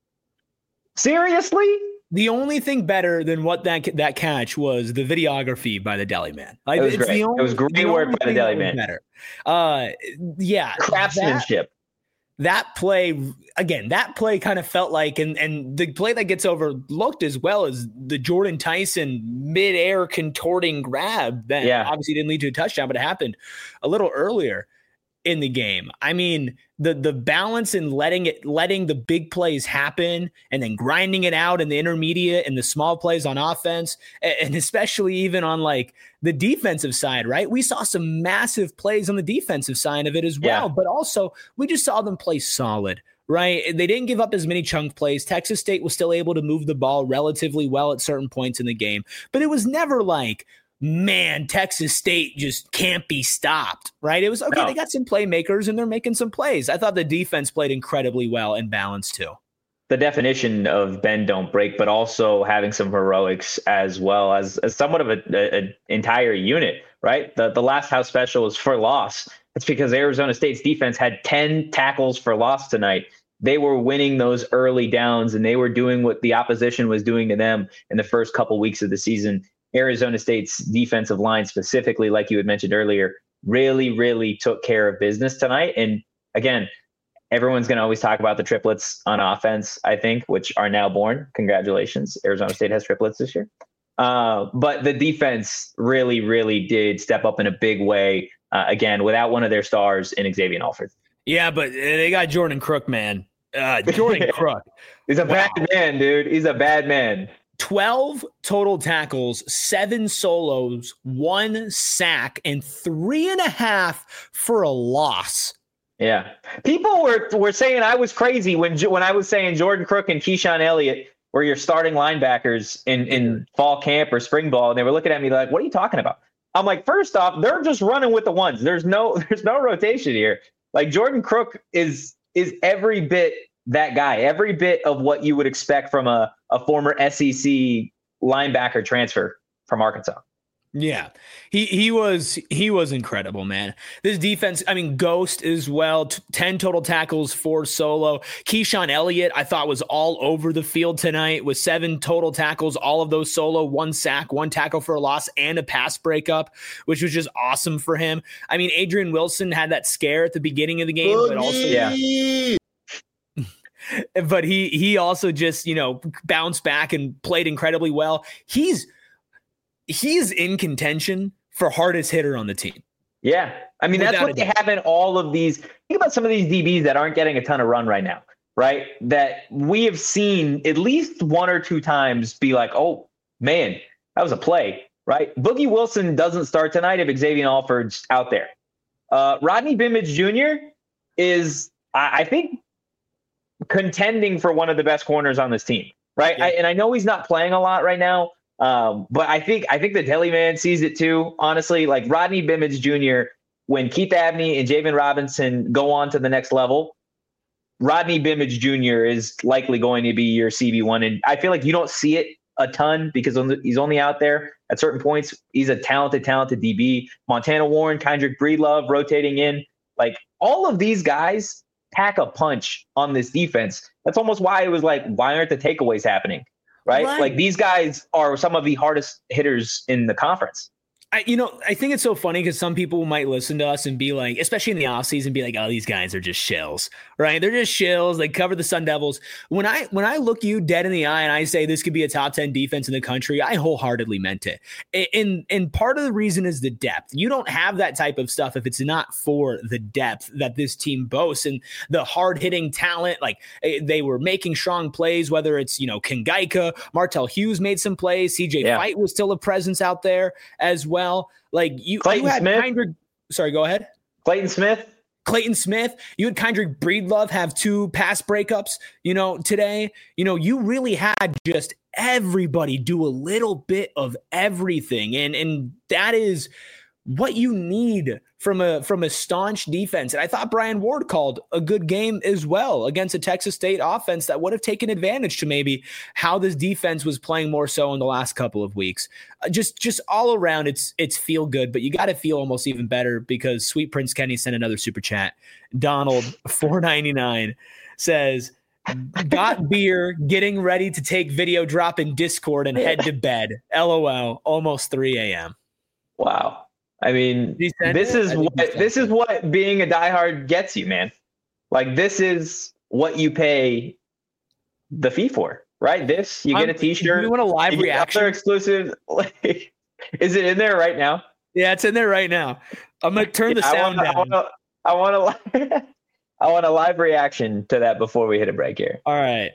[SPEAKER 1] seriously?
[SPEAKER 2] The only thing better than what that that catch was the videography by the Deli Man. Like,
[SPEAKER 1] it was
[SPEAKER 2] it's
[SPEAKER 1] great.
[SPEAKER 2] The only,
[SPEAKER 1] it was great work by the Deli Man.
[SPEAKER 2] Better. Uh, yeah,
[SPEAKER 1] craftsmanship.
[SPEAKER 2] That, that play again. That play kind of felt like, and and the play that gets overlooked as well as the Jordan Tyson midair contorting grab that
[SPEAKER 1] yeah.
[SPEAKER 2] obviously didn't lead to a touchdown, but it happened a little earlier in the game. I mean, the the balance in letting it letting the big plays happen and then grinding it out in the intermediate and the small plays on offense, and especially even on like the defensive side, right? We saw some massive plays on the defensive side of it as well,
[SPEAKER 1] yeah.
[SPEAKER 2] but also we just saw them play solid. Right. They didn't give up as many chunk plays. Texas State was still able to move the ball relatively well at certain points in the game, but it was never like, man, Texas State just can't be stopped, right? It was, okay, no. They got some playmakers and they're making some plays. I thought the defense played incredibly well and balanced too.
[SPEAKER 1] The definition of bend, don't break, but also having some heroics as well as, as somewhat of an entire unit, right? The, the last house special was for loss. It's because Arizona State's defense had ten tackles for loss tonight. They were winning those early downs and they were doing what the opposition was doing to them in the first couple weeks of the season. Arizona State's defensive line specifically, like you had mentioned earlier, really, really took care of business tonight. And again, everyone's going to always talk about the triplets on offense, I think, which are now born. Congratulations. Arizona State has triplets this year. Uh, but the defense really, really did step up in a big way, uh, again, without one of their stars in Xavier Alford.
[SPEAKER 2] Yeah, but they got Jordan Crook, man. Uh, Jordan Crook.
[SPEAKER 1] He's a
[SPEAKER 2] wow.
[SPEAKER 1] bad man, dude. He's a bad man.
[SPEAKER 2] twelve total tackles, seven solos, one sack, and three and a half for a loss.
[SPEAKER 1] Yeah. People were were saying I was crazy when when I was saying Jordan Crook and Keyshawn Elliott were your starting linebackers in, in fall camp or spring ball. And they were looking at me like, what are you talking about? I'm like, first off, they're just running with the ones. There's no there's no rotation here. Like Jordan Crook is is every bit that guy, every bit of what you would expect from a, a former S E C linebacker transfer from Arkansas.
[SPEAKER 2] Yeah, he he was he was incredible, man. This defense, I mean, Ghost as well, t- ten total tackles, four solo. Keyshawn Elliott, I thought, was all over the field tonight with seven total tackles, all of those solo, one sack, one tackle for a loss, and a pass breakup, which was just awesome for him. I mean, Adrian Wilson had that scare at the beginning of the game, Boogie. but also
[SPEAKER 1] yeah.
[SPEAKER 2] but he he also just, you know, bounced back and played incredibly well. He's he's in contention for hardest hitter on the team.
[SPEAKER 1] Yeah. I mean,
[SPEAKER 2] Without
[SPEAKER 1] that's what they have in all of these. Think about some of these D Bs that aren't getting a ton of run right now, right? That we have seen at least one or two times be like, oh, man, that was a play, right? Boogie Wilson doesn't start tonight if Xavier Alford's out there. Uh, Rodney Bimage Junior is, I, I think, contending for one of the best corners on this team, right? Yeah. I, and I know he's not playing a lot right now, um, but I think I think the Deli Man sees it too. Honestly, like Rodney Bimage Junior, when Keith Abney and Javen Robinson go on to the next level, Rodney Bimage Junior is likely going to be your C B one. And I feel like you don't see it a ton because he's only out there at certain points. He's a talented, talented D B. Montana Warren, Kendrick Breedlove rotating in. Like all of these guys pack a punch on this defense. That's almost why it was like, why aren't the takeaways happening? Right? right. Like these guys are some of the hardest hitters in the conference.
[SPEAKER 2] I, you know, I think it's so funny because some people might listen to us and be like, especially in the offseason, be like, oh, these guys are just shills, right? They're just shills. They cover the Sun Devils. When I when I look you dead in the eye and I say this could be a top ten defense in the country, I wholeheartedly meant it. And, and part of the reason is the depth. You don't have that type of stuff if it's not for the depth that this team boasts and the hard-hitting talent. Like they were making strong plays, whether it's, you know, Kingaika, Martell Hughes made some plays. C J yeah. Fight was still a presence out there as well. Like you,
[SPEAKER 1] Clayton
[SPEAKER 2] you had
[SPEAKER 1] Smith.
[SPEAKER 2] Kendrick, sorry, go ahead.
[SPEAKER 1] Clayton Smith.
[SPEAKER 2] Clayton Smith. You had Kendrick Breedlove have two pass breakups, you know, today. You know, you really had just everybody do a little bit of everything. And and that is what you need from a from a staunch defense. And I thought Brian Ward called a good game as well against a Texas State offense that would have taken advantage to maybe how this defense was playing more so in the last couple of weeks. Uh, just just all around, it's it's feel good, but you got to feel almost even better because Sweet Prince Kenny sent another super chat. Donald four ninety-nine says, got beer, getting ready to take video drop in Discord and head to bed. LOL, almost three a.m.
[SPEAKER 1] Wow. I mean, this is what this is what being a diehard gets you, man. Like this is what you pay the fee for, right? This you get a T-shirt.
[SPEAKER 2] You want a live reaction?
[SPEAKER 1] Other exclusive. Like, is it in there right now?
[SPEAKER 2] Yeah, it's in there right now. I'm gonna turn yeah, the sound
[SPEAKER 1] I wanna,
[SPEAKER 2] down.
[SPEAKER 1] I want to. I want a live reaction to that before we hit a break here.
[SPEAKER 2] All right.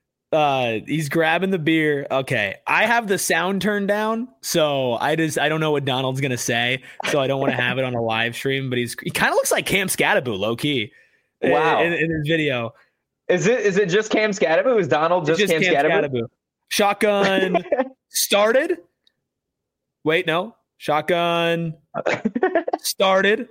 [SPEAKER 2] Uh, he's grabbing the beer. Okay. I have the sound turned down. So I just, I don't know what Donald's going to say. So I don't want to have it on a live stream, but he's, he kind of looks like Cam Scattaboo low key.
[SPEAKER 1] Wow.
[SPEAKER 2] In, in his video.
[SPEAKER 1] Is it, is it just Cam Scattaboo? Is Donald just, just Cam, Cam Scattaboo? Scattaboo?
[SPEAKER 2] Shotgun started. Wait, no. Shotgun started.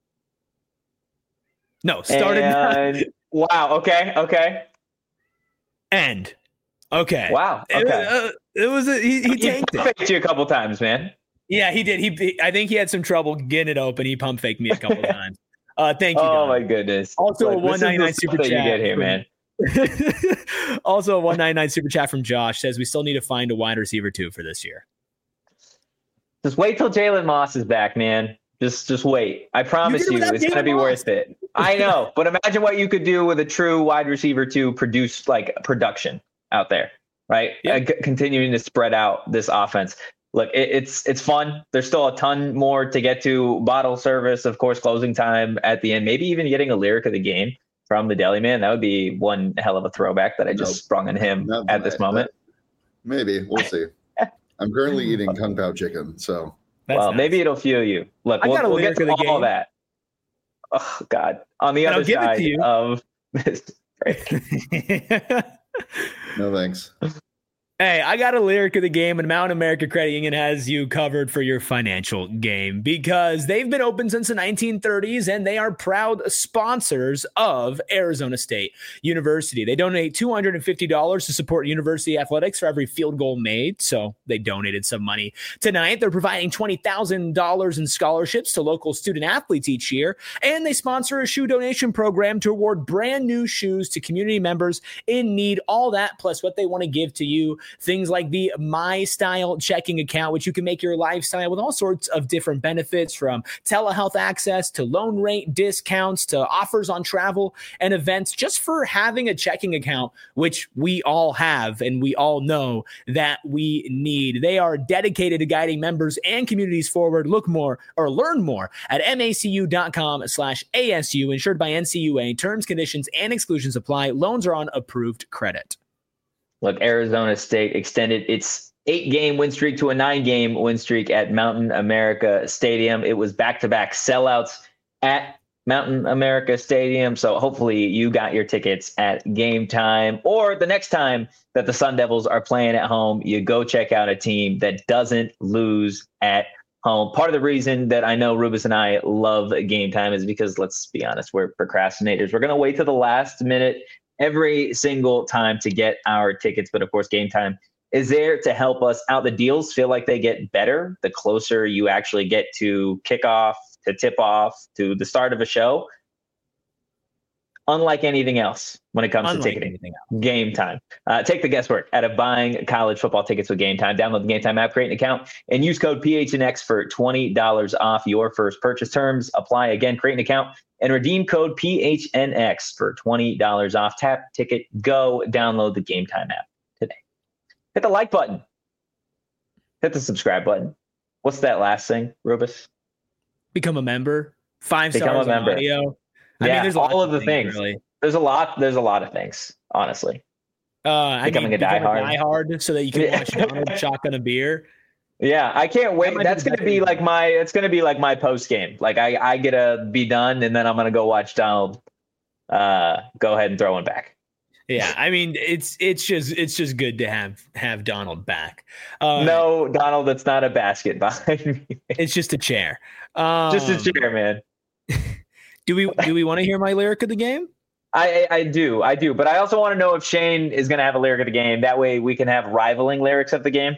[SPEAKER 2] No, started.
[SPEAKER 1] And, wow. Okay. Okay.
[SPEAKER 2] End. Okay.
[SPEAKER 1] Wow. Okay.
[SPEAKER 2] It, uh, it was a, he, he tanked
[SPEAKER 1] he it. You a couple times, man.
[SPEAKER 2] Yeah, he did. He, he I think he had some trouble getting it open. He pump faked me a couple times. Uh, thank you.
[SPEAKER 1] Oh
[SPEAKER 2] Don.
[SPEAKER 1] my goodness.
[SPEAKER 2] Also like, a one ninety-nine super chat.
[SPEAKER 1] You get here, man.
[SPEAKER 2] Also a one ninety-nine super chat from Josh says we still need to find a wide receiver too for this year.
[SPEAKER 1] Just wait till Jalen Moss is back, man. Just just wait. I promise you, it's going to be worth it. I know, but imagine what you could do with a true wide receiver to produce like production out there, right? Yep. Uh, c- continuing to spread out this offense. Look, it, it's it's fun. There's still a ton more to get to. Bottle service, of course, closing time at the end. Maybe even getting a lyric of the game from the Deli Man. That would be one hell of a throwback that I just nope. sprung on him Not at this moment.
[SPEAKER 3] Maybe. We'll see. I'm currently eating Kung Pao chicken, so...
[SPEAKER 1] That's well, nice. Maybe it'll fuel you. Look, we'll, we'll get to all game. that. Oh, God. On the and other side of this.
[SPEAKER 3] No, thanks.
[SPEAKER 2] Hey, I got a lyric of the game, and Mountain America Credit Union has you covered for your financial game because they've been open since the nineteen thirties, and they are proud sponsors of Arizona State University. They donate two hundred fifty dollars to support university athletics for every field goal made, so they donated some money tonight. They're providing twenty thousand dollars in scholarships to local student athletes each year, and they sponsor a shoe donation program to award brand new shoes to community members in need. All that, plus what they want to give to you things like the My Style checking account, which you can make your lifestyle with all sorts of different benefits, from telehealth access to loan rate discounts to offers on travel and events, just for having a checking account, which we all have and we all know that we need. They are dedicated to guiding members and communities forward. Look more or learn more at macu.com slash ASU, insured by N C U A. Terms, conditions, and exclusions apply. Loans are on approved credit.
[SPEAKER 1] Look, Arizona State extended its eight-game win streak to a nine-game win streak at Mountain America Stadium. It was back-to-back sellouts at Mountain America Stadium. So hopefully you got your tickets at game time, or the next time that the Sun Devils are playing at home, you go check out a team that doesn't lose at home. Part of the reason that I know Rubus and I love game time is because, let's be honest, we're procrastinators. We're going to wait to the last minute every single time to get our tickets. But of course, game time is there to help us out. The deals feel like they get better the closer you actually get to kickoff, to tip off, to the start of a show. Unlike anything else when it comes
[SPEAKER 2] Unlike
[SPEAKER 1] to ticketing, game time. Uh, take the guesswork out of buying college football tickets with Game Time. Download the Game Time app, create an account, and use code P H N X for twenty dollars off your first purchase. Terms apply. Again, create an account and redeem code P H N X for twenty dollars off. Tap, ticket, go. Download the Game Time app today. Hit the like button. Hit the subscribe button. What's that last thing, Rubus?
[SPEAKER 2] Become a member. Five
[SPEAKER 1] Become
[SPEAKER 2] stars
[SPEAKER 1] a member.
[SPEAKER 2] on audio.
[SPEAKER 1] Yeah,
[SPEAKER 2] I mean, there's
[SPEAKER 1] all of the
[SPEAKER 2] things.
[SPEAKER 1] things.
[SPEAKER 2] Really.
[SPEAKER 1] There's a lot. There's a lot of things, honestly.
[SPEAKER 2] Uh,
[SPEAKER 1] Becoming
[SPEAKER 2] I mean,
[SPEAKER 1] a
[SPEAKER 2] become
[SPEAKER 1] diehard.
[SPEAKER 2] diehard so that you can
[SPEAKER 1] Yeah.
[SPEAKER 2] watch Donald shotgun a beer.
[SPEAKER 1] Yeah, I can't wait.
[SPEAKER 2] might be
[SPEAKER 1] That's
[SPEAKER 2] the
[SPEAKER 1] gonna
[SPEAKER 2] best
[SPEAKER 1] be
[SPEAKER 2] thing.
[SPEAKER 1] like my. It's gonna be like my post game. Like I, I get to be done, and then I'm gonna go watch Donald. Uh, go ahead and throw one back.
[SPEAKER 2] Yeah, I mean, it's it's just it's just good to have have Donald back. Uh,
[SPEAKER 1] No, Donald, that's not a basket behind me.
[SPEAKER 2] it's just a chair. Um,
[SPEAKER 1] Just a chair, man.
[SPEAKER 2] Do we do we want to hear my lyric of the game?
[SPEAKER 1] I, I I do, I do, but I also want to know if Shane is gonna have a lyric of the game. That way, we can have rivaling lyrics of the game.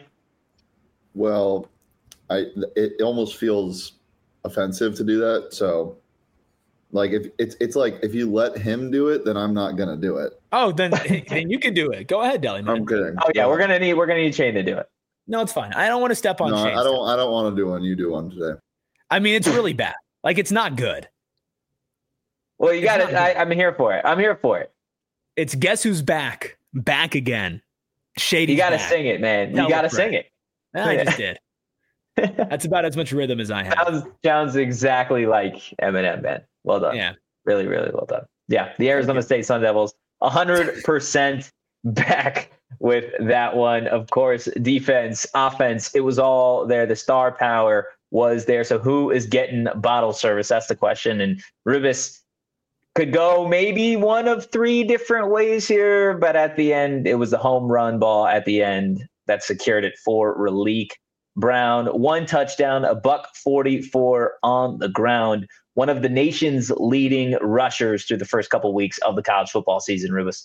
[SPEAKER 3] Well, I it almost feels offensive to do that. So, like, if it's it's like if you let him do it, then I'm not gonna do it.
[SPEAKER 2] Oh, then then you can do it. Go ahead, Deli man.
[SPEAKER 3] I'm kidding.
[SPEAKER 1] Oh yeah, we're gonna need we're gonna need Shane to do it.
[SPEAKER 2] No, it's fine. I don't want to step on
[SPEAKER 3] No,
[SPEAKER 2] Shane's
[SPEAKER 3] I don't.
[SPEAKER 2] toes.
[SPEAKER 3] I don't want to do one. You do one today.
[SPEAKER 2] I mean, it's really bad. Like, it's not good.
[SPEAKER 1] Well, you
[SPEAKER 2] It's
[SPEAKER 1] got
[SPEAKER 2] not
[SPEAKER 1] it. I, I'm here for it. I'm here for it.
[SPEAKER 2] It's Guess Who's Back. Back again. Shady.
[SPEAKER 1] You got to sing it, man.
[SPEAKER 2] Tell
[SPEAKER 1] You got to
[SPEAKER 2] the
[SPEAKER 1] sing it.
[SPEAKER 2] I just did. That's about as much rhythm as I have.
[SPEAKER 1] Sounds sounds exactly like Eminem, man. Well done.
[SPEAKER 2] Yeah.
[SPEAKER 1] Really, really well done. Yeah, the Arizona State Sun Devils, one hundred percent back with that one. Of course, defense, offense, it was all there. The star power was there. So who is getting bottle service? That's the question. And Rubus could go maybe one of three different ways here, but at the end, it was the home run ball at the end that secured it for Raleek Brown. One touchdown, a buck forty-four on the ground. One of the nation's leading rushers through the first couple weeks of the college football season, Rubus.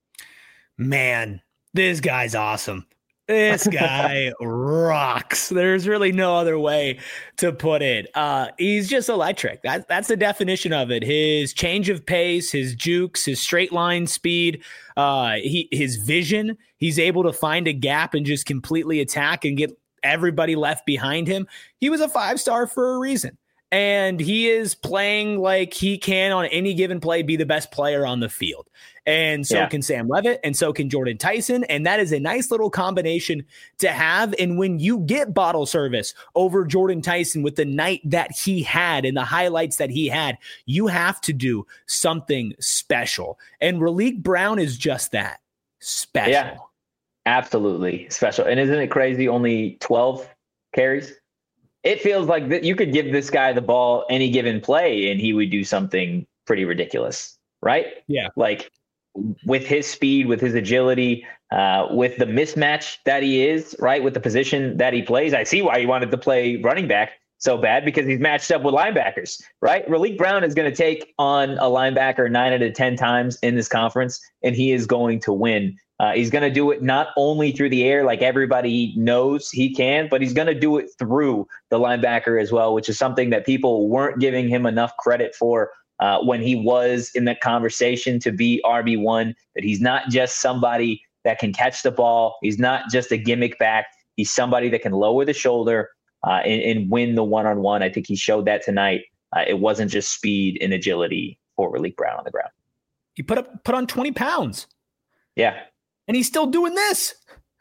[SPEAKER 2] Man, this guy's awesome. This guy rocks. There's really no other way to put it. Uh, he's just electric. That, that's the definition of it. His change of pace, his jukes, his straight line speed, uh, he, his vision. He's able to find a gap and just completely attack and get everybody left behind him. He was a five-star for a reason. And he is playing like he can on any given play be the best player on the field. And so
[SPEAKER 1] yeah.
[SPEAKER 2] can Sam Levitt, and so can Jordan Tyson. And that is a nice little combination to have. And when you get bottle service over Jordan Tyson with the night that he had and the highlights that he had, you have to do something special. And Raleek Brown is just that, special.
[SPEAKER 1] Yeah, absolutely special. And isn't it crazy? Only twelve carries. It feels like that you could give this guy the ball any given play and he would do something pretty ridiculous, right?
[SPEAKER 2] Yeah.
[SPEAKER 1] Like with his speed, with his agility, uh, with the mismatch that he is, right? With the position that he plays. I see why he wanted to play running back so bad, because he's matched up with linebackers, right? Raleek Brown is going to take on a linebacker nine out of ten times in this conference, and he is going to win. Uh, he's going to do it not only through the air, like everybody knows he can, but he's going to do it through the linebacker as well, which is something that people weren't giving him enough credit for uh, when he was in that conversation to be R B one, that he's not just somebody that can catch the ball. He's not just a gimmick back. He's somebody that can lower the shoulder uh, and, and win the one-on-one. I think he showed that tonight. Uh, it wasn't just speed and agility for Raleek Brown on the ground.
[SPEAKER 2] He put up put on twenty pounds.
[SPEAKER 1] Yeah.
[SPEAKER 2] And he's still doing this.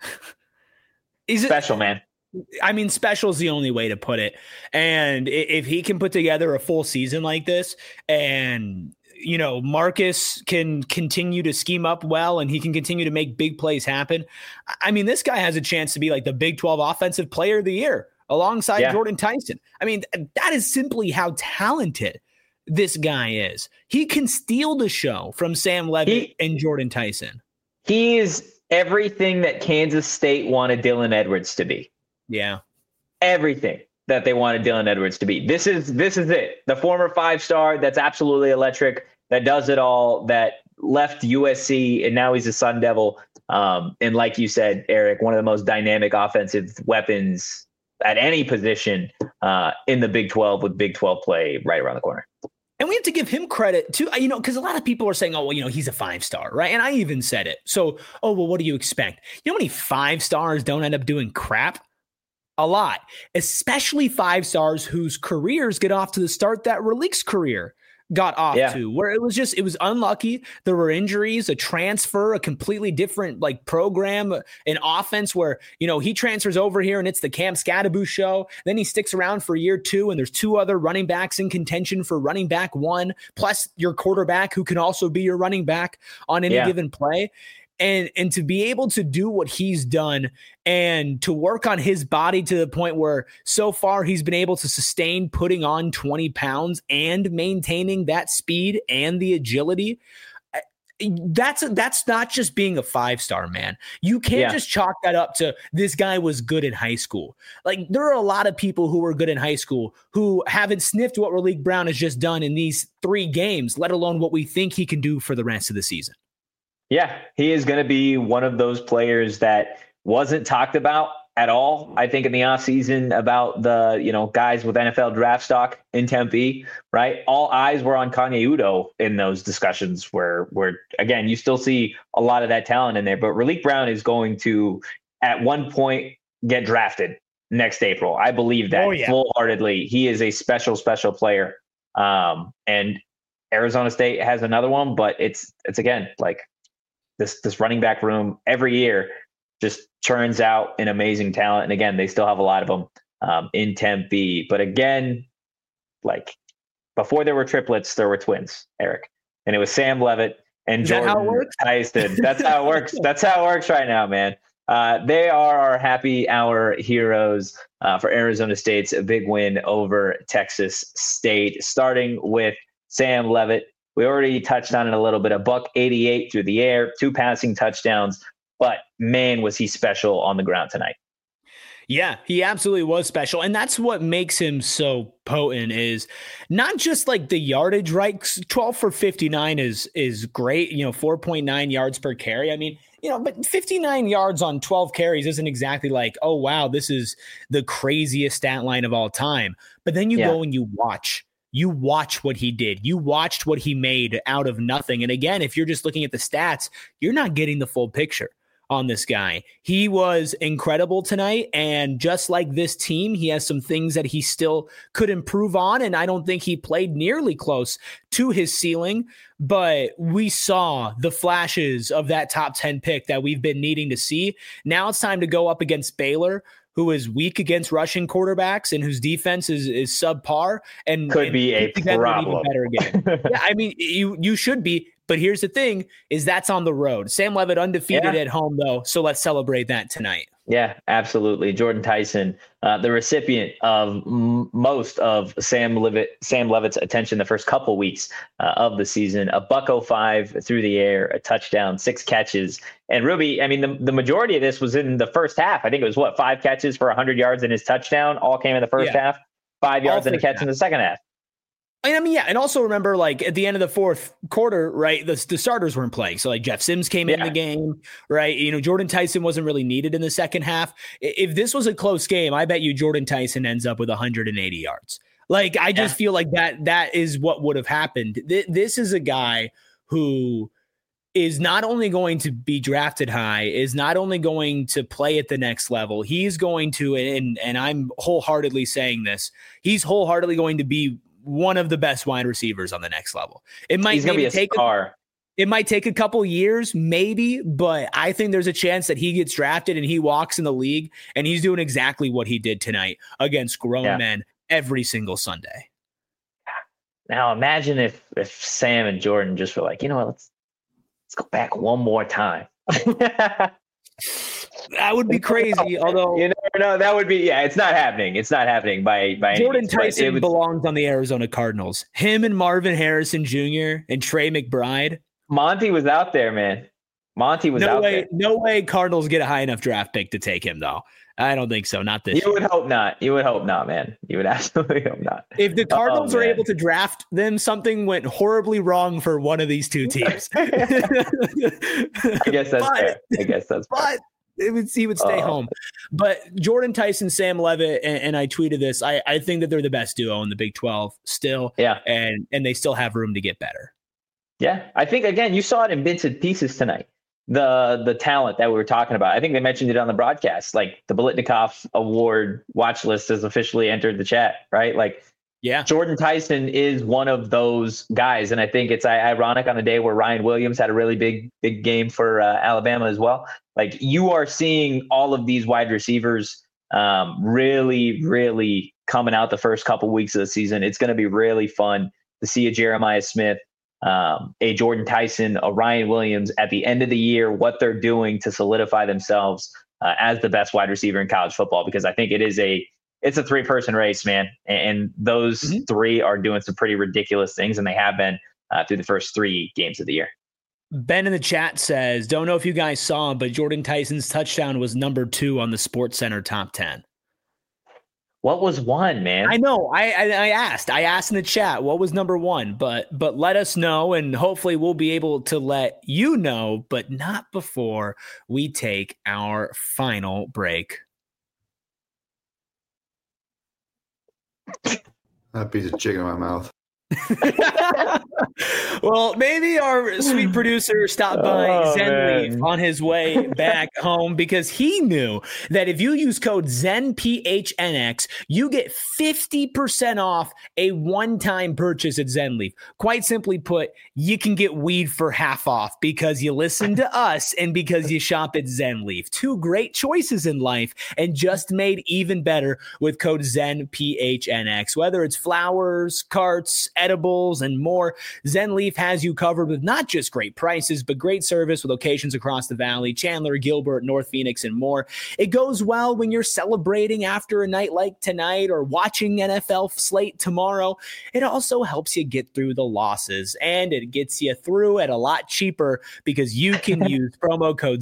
[SPEAKER 2] He's
[SPEAKER 1] special, man.
[SPEAKER 2] I mean, special is the only way to put it. And if he can put together a full season like this, and, you know, Marcus can continue to scheme up well, and he can continue to make big plays happen, I mean, this guy has a chance to be like the Big twelve Offensive Player of the Year alongside yeah. Jordan Tyson. I mean, that is simply how talented this guy is. He can steal the show from Sam Levitt he, and Jordan Tyson.
[SPEAKER 1] He is everything that Kansas State wanted Dylan Edwards to be.
[SPEAKER 2] Yeah.
[SPEAKER 1] Everything that they wanted Dylan Edwards to be. This is this is it. The former five-star that's absolutely electric, that does it all, that left U S C, and now he's a Sun Devil. Um, and like you said, Eric, one of the most dynamic offensive weapons at any position uh, in the Big twelve, with Big twelve play right around the corner.
[SPEAKER 2] And we have to give him credit too, you know, because a lot of people are saying, oh, well, you know, he's a five-star, right? And I even said it. So, oh, well, what do you expect? You know how many five-stars don't end up doing crap? A lot, especially five-stars whose careers get off to the start that Raleek's career got off yeah. to, where it was just, it was unlucky. There were injuries, a transfer, a completely different like program, an offense where, you know, he transfers over here and it's the Cam Scadaboo show. Then he sticks around for year two, and there's two other running backs in contention for running back one, plus your quarterback who can also be your running back on any yeah. given play. And and to be able to do what he's done and to work on his body to the point where so far he's been able to sustain putting on twenty pounds and maintaining that speed and the agility, that's that's not just being a five-star, man. You can't yeah. just chalk that up to this guy was good in high school. Like, there are a lot of people who were good in high school who haven't sniffed what Raleek Brown has just done in these three games, let alone what we think he can do for the rest of the season.
[SPEAKER 1] Yeah, he is going to be one of those players that wasn't talked about at all, I think, in the offseason about the, you know, guys with N F L draft stock in Tempe, right? All eyes were on Kanye Udoh in those discussions where, where again, you still see a lot of that talent in there. But Raleek Brown is going to, at one point, get drafted next April. I believe that oh, yeah. full-heartedly. He is a special, special player. Um, and Arizona State has another one, but it's it's, again, like, This this running back room every year just churns out an amazing talent. And again, they still have a lot of them um, in Tempe. But again, like, before there were triplets, there were twins, Eric. And it was Sam Levitt and
[SPEAKER 2] Is
[SPEAKER 1] Jordan
[SPEAKER 2] that how it works?
[SPEAKER 1] Tyson. That's how it works. That's how it works right now, man. Uh, they are our happy hour heroes uh, for Arizona State's big win over Texas State, starting with Sam Levitt. We already touched on it a little bit. A buck eighty-eight through the air, two passing touchdowns, but man, was he special on the ground tonight.
[SPEAKER 2] Yeah, he absolutely was special. And that's what makes him so potent, is not just like the yardage, right? twelve for fifty-nine is, is great. You know, four point nine yards per carry. I mean, you know, but fifty-nine yards on twelve carries isn't exactly like, oh, wow, this is the craziest stat line of all time. But then you yeah. go and you watch. You watch what he did. You watched what he made out of nothing. And again, if you're just looking at the stats, you're not getting the full picture on this guy. He was incredible tonight. And just like this team, he has some things that he still could improve on. And I don't think he played nearly close to his ceiling, but we saw the flashes of that top ten pick that we've been needing to see. Now it's time to go up against Baylor, who is weak against rushing quarterbacks and whose defense is, is subpar and
[SPEAKER 1] could
[SPEAKER 2] and
[SPEAKER 1] be a problem.
[SPEAKER 2] Better game. yeah, I mean, you you should be, but here's the thing: is that's on the road. Sam Levitt undefeated yeah. at home, though, so let's celebrate that tonight.
[SPEAKER 1] Yeah, absolutely. Jordan Tyson, uh, the recipient of m- most of Sam Levitt, Sam Levitt's attention the first couple weeks uh, of the season. A buck oh five through the air, a touchdown, six catches. And Ruby, I mean, the, the majority of this was in the first half. I think it was, what, five catches for one hundred yards in his touchdown, all came in the first yeah. half, five yards and a catch half. in the second half.
[SPEAKER 2] I mean, yeah, and also remember, like, at the end of the fourth quarter, right, the, the starters weren't playing. So, like, Jeff Sims came yeah. in the game, right? You know, Jordan Tyson wasn't really needed in the second half. If this was a close game, I bet you Jordan Tyson ends up with one hundred eighty yards. Like, I just yeah. feel like that that is what would have happened. Th- this is a guy who is not only going to be drafted high, is not only going to play at the next level, he's going to, and, and I'm wholeheartedly saying this, he's wholeheartedly going to be one of the best wide receivers on the next level. It might
[SPEAKER 1] he's gonna be a
[SPEAKER 2] take
[SPEAKER 1] star.
[SPEAKER 2] A, it might take a couple years, maybe, but I think there's a chance that he gets drafted and he walks in the league and he's doing exactly what he did tonight against grown yeah. men every single Sunday.
[SPEAKER 1] Now imagine if if Sam and Jordan just were like, you know what, let's let's go back one more time.
[SPEAKER 2] That would be crazy. Although
[SPEAKER 1] you never know, that would be yeah. It's not happening. It's not happening by by
[SPEAKER 2] Jordan
[SPEAKER 1] any means,
[SPEAKER 2] Tyson
[SPEAKER 1] would,
[SPEAKER 2] belongs on the Arizona Cardinals. Him and Marvin Harrison Junior and Trey McBride.
[SPEAKER 1] Monty was out there, man. Monty was
[SPEAKER 2] no
[SPEAKER 1] out
[SPEAKER 2] way,
[SPEAKER 1] there.
[SPEAKER 2] No way. Cardinals get a high enough draft pick to take him, though. I don't think so. Not this.
[SPEAKER 1] You
[SPEAKER 2] year.
[SPEAKER 1] would hope not. You would hope not, man. You would absolutely hope not.
[SPEAKER 2] If the Cardinals
[SPEAKER 1] oh,
[SPEAKER 2] are able to draft them, something went horribly wrong for one of these two teams.
[SPEAKER 1] I guess that's
[SPEAKER 2] but,
[SPEAKER 1] fair. I guess that's
[SPEAKER 2] but
[SPEAKER 1] fair.
[SPEAKER 2] It would, he would stay
[SPEAKER 1] uh,
[SPEAKER 2] home. But Jordan Tyson, Sam Levitt, and, and I tweeted this. I, I think that they're the best duo in the Big twelve still.
[SPEAKER 1] Yeah.
[SPEAKER 2] And and they still have room to get better.
[SPEAKER 1] Yeah. I think, again, you saw it in bits and pieces tonight. The the talent that we were talking about. I think they mentioned it on the broadcast. Like the Biletnikoff Award watch list has officially entered the chat, right? Like,
[SPEAKER 2] yeah,
[SPEAKER 1] Jordan Tyson is one of those guys. And I think it's ironic on the day where Ryan Williams had a really big, big game for uh, Alabama as well. Like you are seeing all of these wide receivers um, really, really coming out the first couple weeks of the season. It's going to be really fun to see a Jeremiah Smith, um, a Jordan Tyson, a Ryan Williams at the end of the year, what they're doing to solidify themselves uh, as the best wide receiver in college football, because I think it is a, it's a three person race, man. And those mm-hmm. three are doing some pretty ridiculous things. And they have been uh, through the first three games of the year.
[SPEAKER 2] Ben in the chat says, don't know if you guys saw him, but Jordan Tyson's touchdown was number two on the Sports Center top ten.
[SPEAKER 1] What was one, man?
[SPEAKER 2] I know. I, I I asked. I asked in the chat what was number one, but but let us know, and hopefully we'll be able to let you know, but not before we take our final break.
[SPEAKER 3] That piece of chicken in my mouth.
[SPEAKER 2] Well, maybe our sweet producer stopped by
[SPEAKER 1] oh,
[SPEAKER 2] ZenLeaf
[SPEAKER 1] man.
[SPEAKER 2] on his way back home because he knew that if you use code ZenPHNX, you get fifty percent off a one-time purchase at ZenLeaf. Quite simply put, you can get weed for half off because you listen to us and because you shop at ZenLeaf. Two great choices in life and just made even better with code ZenPHNX. Whether it's flowers, carts, edibles, and more, ZenLeaf has you covered with not just great prices, but great service with locations across the valley, Chandler, Gilbert, North Phoenix, and more. It goes well when you're celebrating after a night like tonight or watching N F L slate tomorrow. It also helps you get through the losses, and it gets you through at a lot cheaper because you can use promo code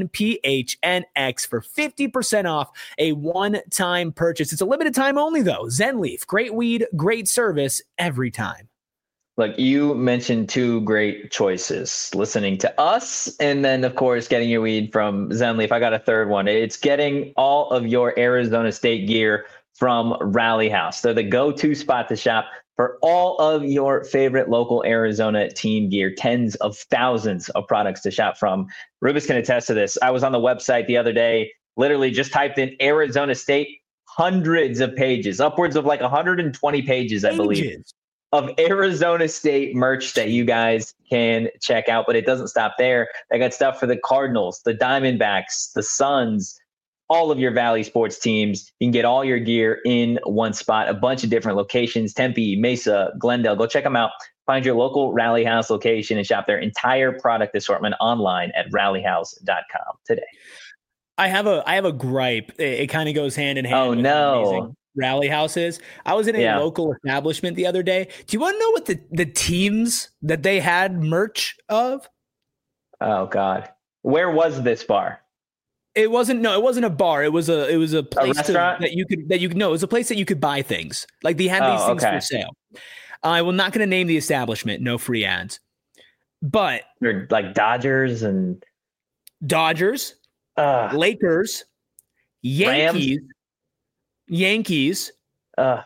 [SPEAKER 2] ZenPHNX for fifty percent off a one-time purchase. It's a limited time only, though. ZenLeaf, great weed, great service every time.
[SPEAKER 1] Look, you mentioned two great choices, listening to us and then, of course, getting your weed from ZenLeaf. I got a third one. It's getting all of your Arizona State gear from Rally House. They're the go-to spot to shop for all of your favorite local Arizona team gear, tens of thousands of products to shop from. Rubus can attest to this. I was on the website the other day, literally just typed in Arizona State, hundreds of pages, upwards of like one hundred twenty pages, I believe. Pages. Of Arizona State merch that you guys can check out, but it doesn't stop there. They got stuff for the Cardinals, the Diamondbacks, the Suns, all of your Valley sports teams. You can get all your gear in one spot, a bunch of different locations, Tempe, Mesa, Glendale. Go check them out. Find your local Rally House location and shop their entire product assortment online at rally house dot com today.
[SPEAKER 2] I have a I have a gripe. It, it kind of goes hand in hand.
[SPEAKER 1] Oh,
[SPEAKER 2] with
[SPEAKER 1] no.
[SPEAKER 2] amazing Rally houses. I was in a
[SPEAKER 1] yeah.
[SPEAKER 2] local establishment the other day. Do you want to know what the, the teams that they had merch of?
[SPEAKER 1] Oh God. Where was this bar?
[SPEAKER 2] It wasn't no, it wasn't a bar. It was a it was a place
[SPEAKER 1] a
[SPEAKER 2] to, that you could that you could no, it was a place that you could buy things. Like they had
[SPEAKER 1] oh,
[SPEAKER 2] these things
[SPEAKER 1] okay.
[SPEAKER 2] for sale. I will not gonna name the establishment, no free ads. But
[SPEAKER 1] they're like Dodgers and
[SPEAKER 2] Dodgers,
[SPEAKER 1] uh,
[SPEAKER 2] Lakers, Yankees.
[SPEAKER 1] Rams.
[SPEAKER 2] Yankees,
[SPEAKER 1] uh,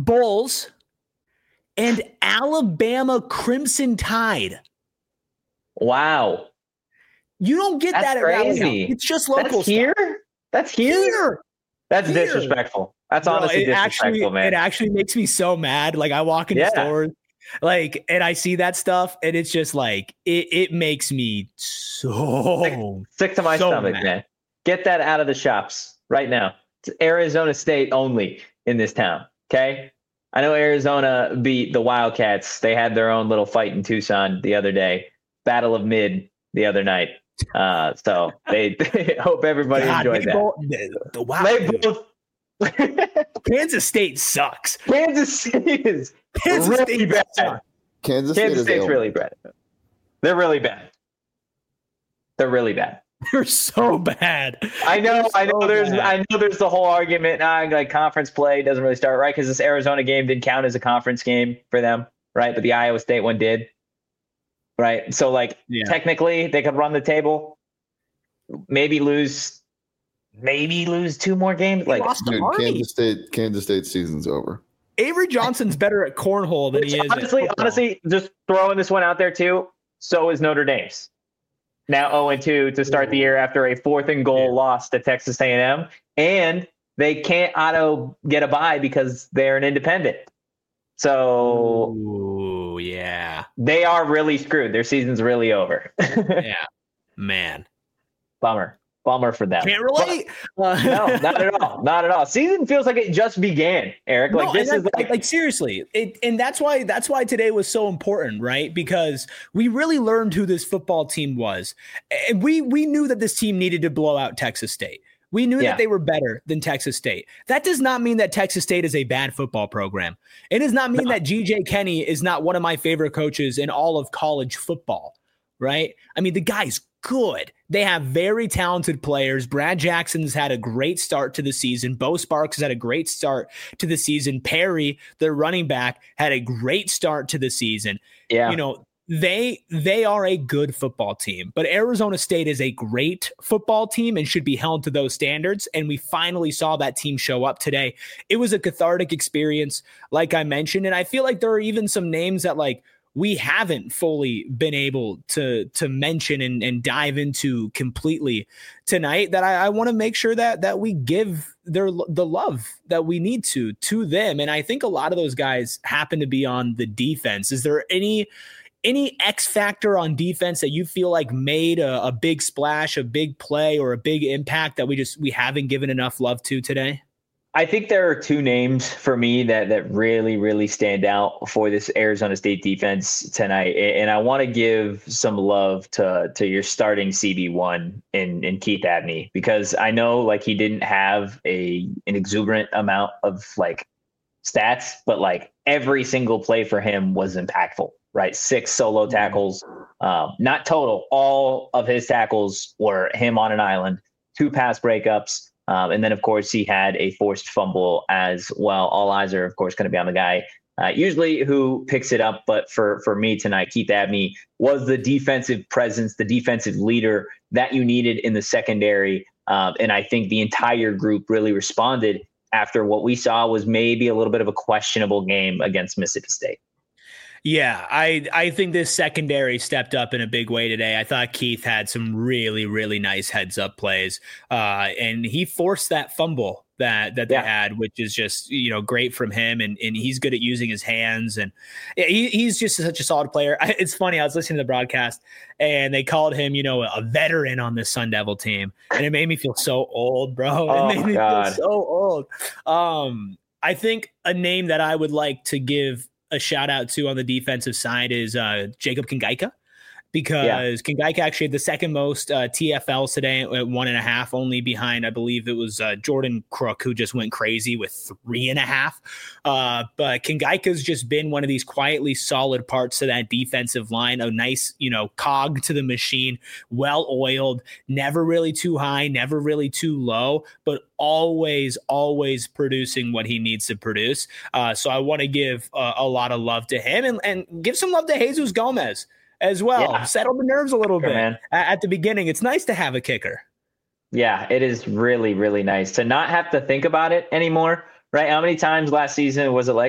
[SPEAKER 2] Bulls, and Alabama Crimson Tide.
[SPEAKER 1] Wow.
[SPEAKER 2] You don't get
[SPEAKER 1] That's
[SPEAKER 2] that at
[SPEAKER 1] crazy.
[SPEAKER 2] Rally House. It's just local
[SPEAKER 1] That's here?
[SPEAKER 2] stuff.
[SPEAKER 1] That's here?
[SPEAKER 2] Here.
[SPEAKER 1] That's
[SPEAKER 2] Here.
[SPEAKER 1] disrespectful. That's
[SPEAKER 2] Bro,
[SPEAKER 1] honestly
[SPEAKER 2] it
[SPEAKER 1] disrespectful,
[SPEAKER 2] actually,
[SPEAKER 1] man.
[SPEAKER 2] It actually makes me so mad. Like I walk into
[SPEAKER 1] Yeah.
[SPEAKER 2] stores, like, and I see that stuff, and it's just like it. It makes me so
[SPEAKER 1] Sick, sick to my
[SPEAKER 2] so
[SPEAKER 1] stomach,
[SPEAKER 2] mad.
[SPEAKER 1] man. Get that out of the shops right now. It's Arizona State only in this town. Okay. I know Arizona beat the Wildcats. They had their own little fight in Tucson the other day. Battle of Mid the other night. Uh, so they, they hope everybody
[SPEAKER 2] God,
[SPEAKER 1] enjoyed
[SPEAKER 2] they
[SPEAKER 1] that.
[SPEAKER 2] both- the, the, wow,
[SPEAKER 1] They
[SPEAKER 2] dude.
[SPEAKER 1] both.
[SPEAKER 2] Kansas State sucks.
[SPEAKER 1] Kansas State is
[SPEAKER 2] Kansas
[SPEAKER 1] really
[SPEAKER 2] State
[SPEAKER 1] bad.
[SPEAKER 2] sucks.
[SPEAKER 3] Kansas, State
[SPEAKER 1] Kansas
[SPEAKER 3] is
[SPEAKER 1] State's
[SPEAKER 3] ill.
[SPEAKER 1] really bad. They're really bad. They're really bad.
[SPEAKER 2] They're so bad.
[SPEAKER 1] I know,
[SPEAKER 2] They're
[SPEAKER 1] I know.
[SPEAKER 2] so
[SPEAKER 1] There's,
[SPEAKER 2] bad.
[SPEAKER 1] I know. There's the whole argument. Nah, like conference play doesn't really start right because this Arizona game didn't count as a conference game for them, right? But the Iowa State one did, right? So, like,
[SPEAKER 2] Yeah.
[SPEAKER 1] technically, they could run the table, maybe lose, maybe lose two more games. Like,
[SPEAKER 2] Lost to
[SPEAKER 3] Dude,
[SPEAKER 2] Army.
[SPEAKER 3] Kansas State, Kansas State season's over.
[SPEAKER 2] Avery Johnson's better at cornhole than
[SPEAKER 1] which
[SPEAKER 2] he is. at
[SPEAKER 1] honestly,
[SPEAKER 2] football.
[SPEAKER 1] honestly, just throwing this one out there too. So is Notre Dame's. Now zero and two to start the year after a fourth and goal
[SPEAKER 2] Yeah.
[SPEAKER 1] loss to Texas A and M, and they can't auto get a bye because they're an independent. So
[SPEAKER 2] Ooh, yeah,
[SPEAKER 1] they are really screwed. Their season's really over.
[SPEAKER 2] yeah, man,
[SPEAKER 1] Bummer, bummer for them.
[SPEAKER 2] can't relate. Uh,
[SPEAKER 1] No, not at all, not at all. Season feels like it just began, Eric. Like
[SPEAKER 2] No,
[SPEAKER 1] this
[SPEAKER 2] and
[SPEAKER 1] is
[SPEAKER 2] that-
[SPEAKER 1] like,
[SPEAKER 2] like seriously, it, and that's why that's why today was so important, right? Because we really learned who this football team was, and we we knew that this team needed to blow out Texas State. We knew
[SPEAKER 1] Yeah.
[SPEAKER 2] that they were better than Texas State. That does not mean that Texas State is a bad football program. It does not mean
[SPEAKER 1] No.
[SPEAKER 2] that G J Kenny is not one of my favorite coaches in all of college football, right? I mean, the guy's good. They have very talented players. Brad Jackson's had a great start to the season. Bo Sparks has had a great start to the season. Perry, their running back, had a great start to the season.
[SPEAKER 1] yeah,
[SPEAKER 2] You know, they they are a good football team, but Arizona State is a great football team and should be held to those standards. And we finally saw that team show up today. It was a cathartic experience, like I mentioned. And I feel like there are even some names that like we haven't fully been able to to mention and, and dive into completely tonight that I, I want to make sure that that we give their the love that we need to to them. And I think a lot of those guys happen to be on the defense. Is there any any X factor on defense that you feel like made a, a big splash, a big play, or a big impact that we just we haven't given enough love to today?
[SPEAKER 1] I think there are two names for me that that really, really stand out for this Arizona State defense tonight. And I want to give some love to to your starting C B one in, in Keith Abney, because I know like he didn't have a an exuberant amount of like stats, but like every single play for him was impactful, right? Six solo tackles, um, not total. All of his tackles were him on an island, two pass breakups. Um, and then, of course, he had a forced fumble as well. All eyes are, of course, going to be on the guy uh, usually who picks it up. But for, for me tonight, Keith Abney was the defensive presence, the defensive leader that you needed in the secondary. Um, and I think the entire group really responded after what we saw was maybe a little bit of a questionable game against Mississippi State.
[SPEAKER 2] Yeah, I I think this secondary stepped up in a big way today. I thought Keith had some really, really nice heads up plays, uh, and he forced that fumble that that they
[SPEAKER 1] Yeah.
[SPEAKER 2] had, which is just, you know, great from him. And and he's good at using his hands, and yeah, he, he's just such a solid player. I, it's funny, I was listening to the broadcast, and they called him, you know, a veteran on this Sun Devil team, and it made me feel so old, bro.
[SPEAKER 1] Oh,
[SPEAKER 2] it made me
[SPEAKER 1] God.
[SPEAKER 2] feel so old. Um, I think a name that I would like to give a shout out to on the defensive side is uh, Jacob Kingaika, because yeah. Kingaika actually had the second most uh, T F Ls today at one and a half, only behind, I believe it was uh, Jordan Crook, who just went crazy with three and a half. Uh, but Kingaika's just been one of these quietly solid parts of that defensive line, a nice, you know, cog to the machine, well oiled, never really too high, never really too low, but always, always producing what he needs to produce. Uh, so I want to give uh, a lot of love to him and, and give some love to Jesus Gomez as well. Yeah. Settle the nerves a little sure, bit man. At the beginning. It's nice to have a kicker.
[SPEAKER 1] Yeah, it is really, really nice to not have to think about it anymore, right? How many times last season was it like, oh,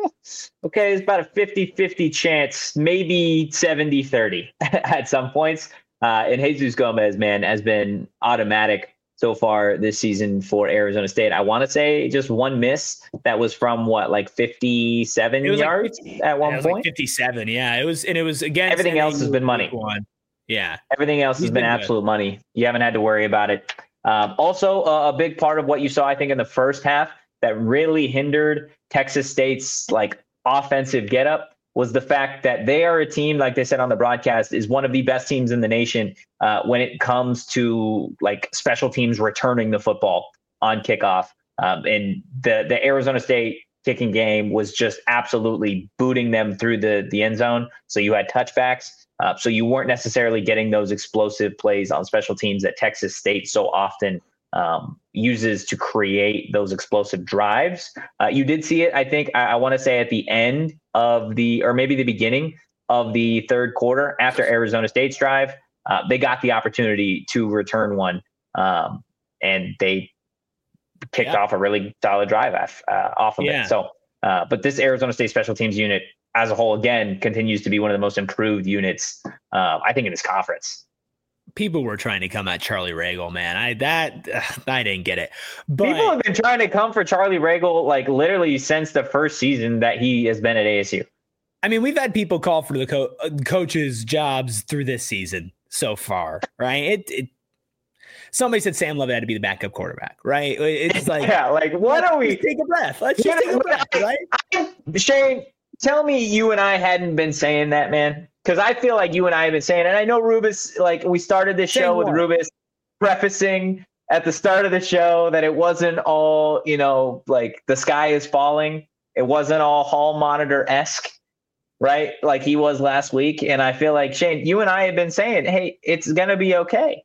[SPEAKER 1] okay, it's about a fifty-fifty chance, maybe seventy thirty at some points. Uh, and Jesus Gomez, man, has been automatic so far this season for Arizona State. I want to say just one miss that was from what, like fifty-seven yards
[SPEAKER 2] like fifty,
[SPEAKER 1] at one
[SPEAKER 2] it was
[SPEAKER 1] point?
[SPEAKER 2] Like fifty-seven, yeah. It was, and it was against
[SPEAKER 1] everything else has been money.
[SPEAKER 2] One. Yeah.
[SPEAKER 1] Everything else
[SPEAKER 2] He's
[SPEAKER 1] has been,
[SPEAKER 2] been
[SPEAKER 1] absolute
[SPEAKER 2] good.
[SPEAKER 1] money. You haven't had to worry about it. Um, also, uh, a big part of what you saw, I think, in the first half that really hindered Texas State's like offensive getup was the fact that they are a team, like they said on the broadcast, is one of the best teams in the nation uh, when it comes to like special teams returning the football on kickoff. Um, and the the Arizona State kicking game was just absolutely booting them through the the end zone. So you had touchbacks. Uh, so you weren't necessarily getting those explosive plays on special teams that Texas State so often um, uses to create those explosive drives. Uh, you did see it, I think, I, I want to say at the end of the, or maybe the beginning of the third quarter after Arizona State's drive, uh, they got the opportunity to return one, um, and they kicked yeah. off a really solid drive off, uh, off of yeah. it. So, uh, but this Arizona State special teams unit as a whole, again, continues to be one of the most improved units, uh, I think, in this conference.
[SPEAKER 2] People were trying to come at Charlie Ragle, man. I that uh, I didn't get it. But
[SPEAKER 1] people have been trying to come for Charlie Ragle like literally since the first season that he has been at A S U.
[SPEAKER 2] I mean, we've had people call for the co- uh, coaches' jobs through this season so far, right? It, it somebody said Sam Lovett had to be the backup quarterback, right? It's like,
[SPEAKER 1] yeah, like what are we?
[SPEAKER 2] Take a breath. Let's just take a breath, right?
[SPEAKER 1] I, Shane, tell me you and I hadn't been saying that, man. Because I feel like you and I have been saying, and I know Rubus, like we started this show with Rubus prefacing at the start of the show that it wasn't all, you know, like the sky is falling. It wasn't all hall monitor-esque, right? Like he was last week. And I feel like, Shane, you and I have been saying, hey, it's going to be okay.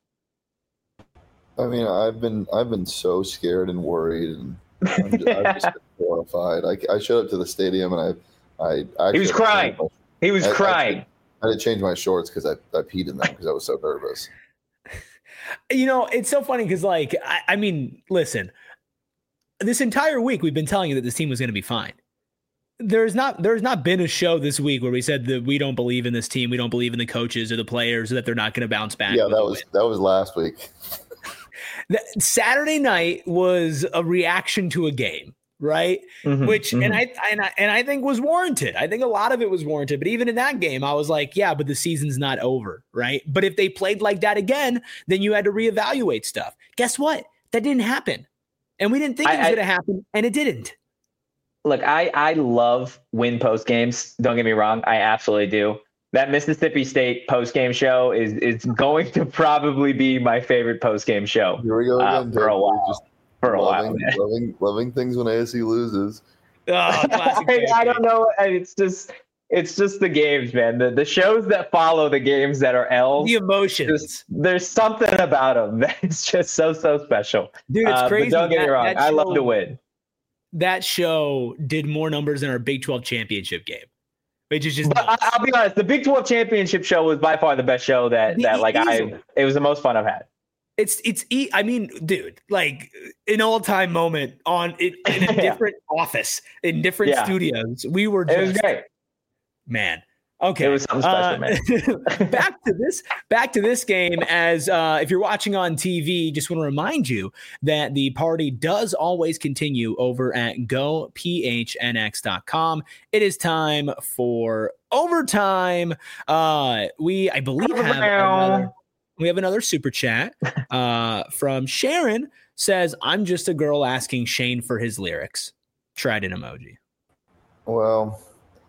[SPEAKER 3] I mean, I've been I've been so scared and worried, and I'm just, I've just been horrified. I, I showed up to the stadium, and I, I actually
[SPEAKER 1] he was crying. My, he was
[SPEAKER 3] I,
[SPEAKER 1] crying.
[SPEAKER 3] Actually, I had to change my shorts because I, I peed in them because I was so nervous.
[SPEAKER 2] You know, it's so funny because, like, I, I mean, listen, this entire week we've been telling you that this team was going to be fine. There's not there's not been a show this week where we said that we don't believe in this team, we don't believe in the coaches or the players, or that they're not going to bounce back.
[SPEAKER 3] Yeah, that was that was last week.
[SPEAKER 2] Saturday night was a reaction to a game. Right. Mm-hmm, Which mm-hmm. and I and I and I think was warranted. I think a lot of it was warranted. But even in that game, I was like, yeah, but the season's not over. Right. But if they played like that again, then you had to reevaluate stuff. Guess what? That didn't happen. And we didn't think I, it was going to happen. And it didn't.
[SPEAKER 1] Look, I, I love win post games. Don't get me wrong. I absolutely do. That Mississippi State post game show is is going to probably be my favorite post game show.
[SPEAKER 3] Here we go again.
[SPEAKER 1] Uh, for a while. Just- For a
[SPEAKER 3] loving,
[SPEAKER 1] while,
[SPEAKER 3] loving, loving things when A S U loses.
[SPEAKER 2] Oh,
[SPEAKER 1] I, I don't know. It's just, it's just the games, man. The the shows that follow the games that are L's.
[SPEAKER 2] The emotions.
[SPEAKER 1] Just, there's something about them that's just so so special,
[SPEAKER 2] dude. It's
[SPEAKER 1] uh,
[SPEAKER 2] crazy.
[SPEAKER 1] But don't get
[SPEAKER 2] that,
[SPEAKER 1] me wrong.
[SPEAKER 2] show,
[SPEAKER 1] I love to win.
[SPEAKER 2] That show did more numbers than our Big twelve championship game, which is just.
[SPEAKER 1] But I, I'll be honest. The Big twelve championship show was by far the best show that
[SPEAKER 2] the,
[SPEAKER 1] that like
[SPEAKER 2] easily.
[SPEAKER 1] I. It was the most fun I've had.
[SPEAKER 2] It's it's I mean, dude, like an all time moment on in, in a different yeah. office in different yeah. studios. We were just,
[SPEAKER 1] it was great,
[SPEAKER 2] man. Okay,
[SPEAKER 1] it was something special,
[SPEAKER 2] uh, man. back to this, back to this game. As uh, if you're watching on T V, just want to remind you that the party does always continue over at go p h n x dot com. It is time for overtime. Uh, we, I believe, have another. We have another super chat uh, from Sharon. Says, I'm just a girl asking Shane for his lyrics. Tried an emoji.
[SPEAKER 3] Well,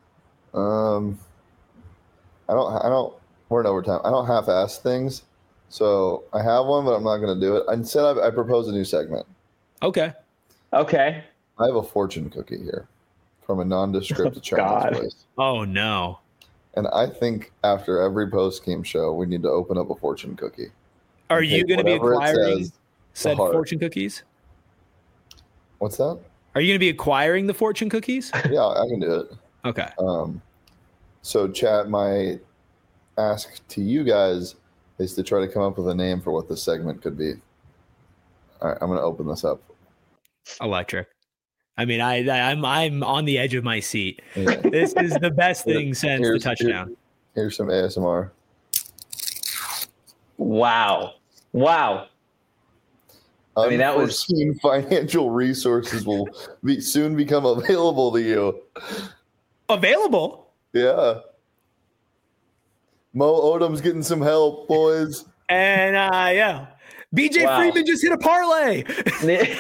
[SPEAKER 3] um, I don't, I don't, we're in overtime. I don't half-ass things. So I have one, but I'm not going to do it. Instead, I, I propose a new segment.
[SPEAKER 2] Okay.
[SPEAKER 1] Okay.
[SPEAKER 3] I have a fortune cookie here from a nondescript Chinese place.
[SPEAKER 2] Oh, no.
[SPEAKER 3] And I think after every post-game show, we need to open up a forttion cookie.
[SPEAKER 2] Are you going to be acquiring said fortune cookies?
[SPEAKER 3] What's that?
[SPEAKER 2] Are you going to be acquiring the fortune cookies?
[SPEAKER 3] Yeah, I can do it.
[SPEAKER 2] Okay.
[SPEAKER 3] Um, so, chat, my ask to you guys is to try to come up with a name for what this segment could be. All right, I'm going to open this up.
[SPEAKER 2] Electric. I mean, I, I I'm I'm on the edge of my seat.
[SPEAKER 3] Yeah.
[SPEAKER 2] This is the best thing since the
[SPEAKER 3] Here's-
[SPEAKER 2] touchdown.
[SPEAKER 3] here- here's some A S M R.
[SPEAKER 1] Wow. Wow. I mean, that was-
[SPEAKER 3] Unforeseen financial resources will be soon become available to you.
[SPEAKER 2] Available.
[SPEAKER 3] Yeah. Mo Odom's getting some help, boys.
[SPEAKER 2] And uh, yeah, B J
[SPEAKER 1] Wow.
[SPEAKER 2] Freeman just hit a parlay.
[SPEAKER 1] It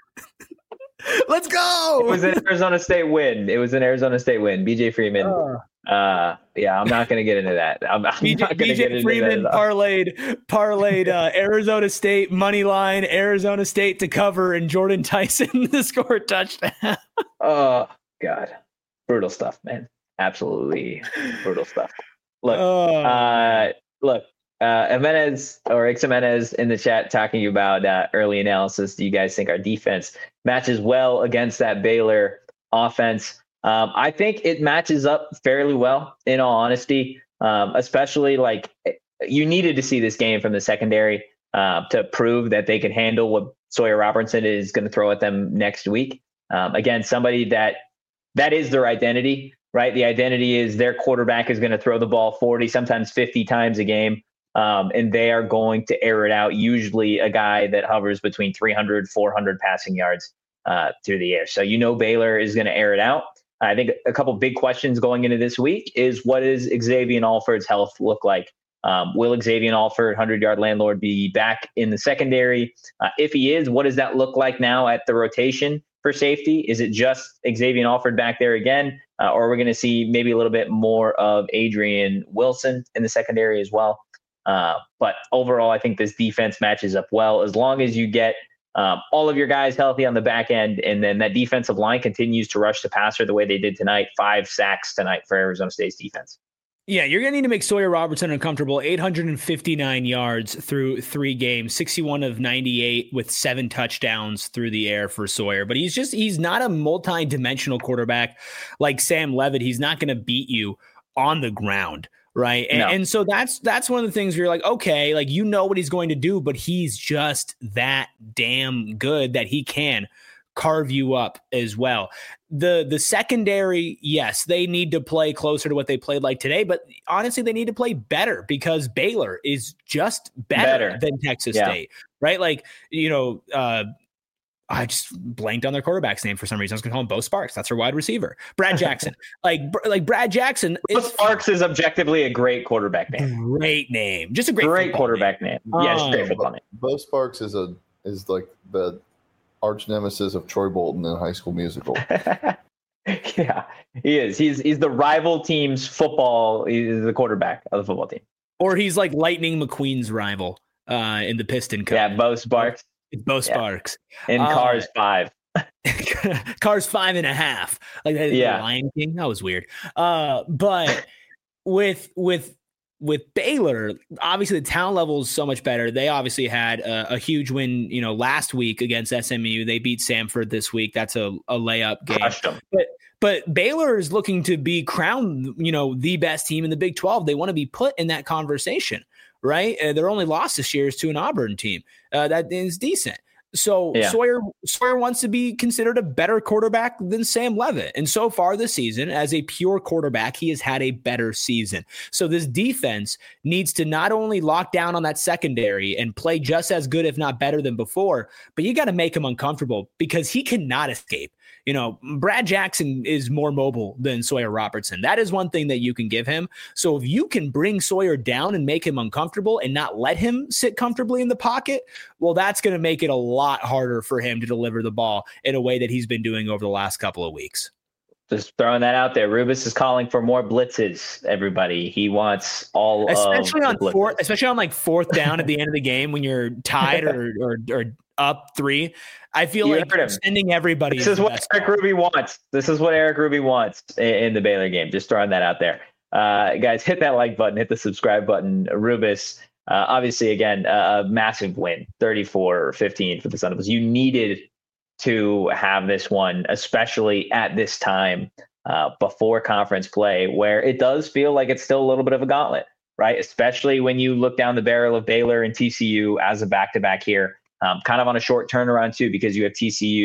[SPEAKER 2] Let's go.
[SPEAKER 1] was an Arizona State win. It was an Arizona State win. B J Freeman.
[SPEAKER 2] Uh,
[SPEAKER 1] Uh, yeah, I'm not going to get into that. I'm, I'm
[SPEAKER 2] B J,
[SPEAKER 1] not going to get
[SPEAKER 2] B J
[SPEAKER 1] into
[SPEAKER 2] Freeman
[SPEAKER 1] that. at all.
[SPEAKER 2] parlayed parlayed uh, Arizona State money line, Arizona State to cover, and Jordan Tyson to score a touchdown.
[SPEAKER 1] Oh God, brutal stuff, man. Absolutely brutal stuff. Look,
[SPEAKER 2] Oh,
[SPEAKER 1] uh, look, uh, Jimenez or X Jimenez in the chat talking about uh, early analysis. Do you guys think our defense matches well against that Baylor offense? Um, I think it matches up fairly well, in all honesty, um, especially like you needed to see this game from the secondary uh, to prove that they could handle what Sawyer Robertson is going to throw at them next week. Um, again, somebody that that is their identity, right? The identity is their quarterback is going to throw the ball forty, sometimes fifty times a game. Um, and they are going to air it out. Usually a guy that hovers between three hundred, four hundred passing yards uh, through the air. So, you know, Baylor is going to air it out. I think a couple big questions going into this week is what does Xavier Alford's health look like? Um, will Xavier Alford, hundred-yard landlord, be back in the secondary? Uh, if he is, what does that look like now at the rotation for safety? Is it just Xavier Alford back there again? Uh, or are we going to see maybe a little bit more of Adrian Wilson in the secondary as well? Uh, but overall, I think this defense matches up well as long as you get Um, all of your guys healthy on the back end, and then that defensive line continues to rush the passer the way they did tonight. Five sacks tonight for Arizona State's defense.
[SPEAKER 2] yeah, you're going to need to make Sawyer Robertson uncomfortable. eight hundred fifty-nine yards through three games, sixty-one of ninety-eight with seven touchdowns through the air for Sawyer. But he's just, he's not a multi-dimensional quarterback like Sam Levitt. He's not going to beat you on the ground. Right. And,
[SPEAKER 1] No.
[SPEAKER 2] and so that's that's one of the things where you're like, OK, like, you know what he's going to do, but he's just that damn good that he can carve you up as well. The the secondary, yes, they need to play closer to what they played like today. But honestly, they need to play better because Baylor is just better,
[SPEAKER 1] Better.
[SPEAKER 2] than Texas
[SPEAKER 1] Yeah.
[SPEAKER 2] State. Right. Like, you know, uh, I just blanked on their quarterback's name for some reason. I was going to call him Bo Sparks. That's their wide receiver. Brad Jackson. like, like Brad Jackson.
[SPEAKER 1] Bo
[SPEAKER 2] is
[SPEAKER 1] Sparks is objectively a great quarterback name.
[SPEAKER 2] great name. Just a great,
[SPEAKER 1] Great
[SPEAKER 2] football
[SPEAKER 1] quarterback name. Yes,
[SPEAKER 2] Um,
[SPEAKER 1] great football name.
[SPEAKER 3] Bo Sparks is a is like the arch nemesis of Troy Bolton in High School Musical.
[SPEAKER 1] Yeah, he is. He's he's the rival team's football. He's the quarterback of the football team.
[SPEAKER 2] Or he's like Lightning McQueen's rival uh, in the Piston Cup.
[SPEAKER 1] Yeah, Bo Sparks
[SPEAKER 2] It's Bo Sparks.
[SPEAKER 1] in
[SPEAKER 2] Uh,
[SPEAKER 1] Cars five.
[SPEAKER 2] Cars five and a half. Like that,
[SPEAKER 1] Yeah.
[SPEAKER 2] the Lion King. That was weird. Uh, but with with with Baylor, obviously the talent level is so much better. They obviously had a, a huge win, you know, last week against S M U. They beat Samford this week. That's a, a layup game.
[SPEAKER 1] Crushed him.
[SPEAKER 2] But but Baylor is looking to be crowned, you know, the best team in the Big twelve. They want to be put in that conversation, right? Uh, their only loss this year is to an Auburn team uh, that is decent. So
[SPEAKER 1] Yeah.
[SPEAKER 2] Sawyer Sawyer wants to be considered a better quarterback than Sam Levitt. And so far this season, as a pure quarterback, he has had a better season. So this defense needs to not only lock down on that secondary and play just as good, if not better than before, but you got to make him uncomfortable because he cannot escape. You know, Brad Jackson is more mobile than Sawyer Robertson. That is one thing that you can give him. So if you can bring Sawyer down and make him uncomfortable and not let him sit comfortably in the pocket, well, that's going to make it a lot harder for him to deliver the ball in a way that he's been doing over the last couple of weeks.
[SPEAKER 1] Just throwing that out there. Rubus is calling for more blitzes. Everybody, he wants all
[SPEAKER 2] Especially
[SPEAKER 1] of
[SPEAKER 2] on
[SPEAKER 1] the blitzes.
[SPEAKER 2] fourth, especially on like fourth down at the end of the game when you're tied or or, or up three. I feel
[SPEAKER 1] You
[SPEAKER 2] like
[SPEAKER 1] heard him.
[SPEAKER 2] sending everybody.
[SPEAKER 1] This is
[SPEAKER 2] the
[SPEAKER 1] what
[SPEAKER 2] best
[SPEAKER 1] Eric
[SPEAKER 2] part.
[SPEAKER 1] Ruby wants. This is what Eric Ruby wants in, in the Baylor game. Just throwing that out there. Uh, guys, hit that like button, hit the subscribe button. Rubus, uh, obviously, again, uh, a massive win, thirty-four fifteen for the Sun Devils. You needed to have this one, especially at this time uh, before conference play, where it does feel like it's still a little bit of a gauntlet, right? Especially when you look down the barrel of Baylor and T C U as a back-to-back here. Um, kind of on a short turnaround too, because you have T C U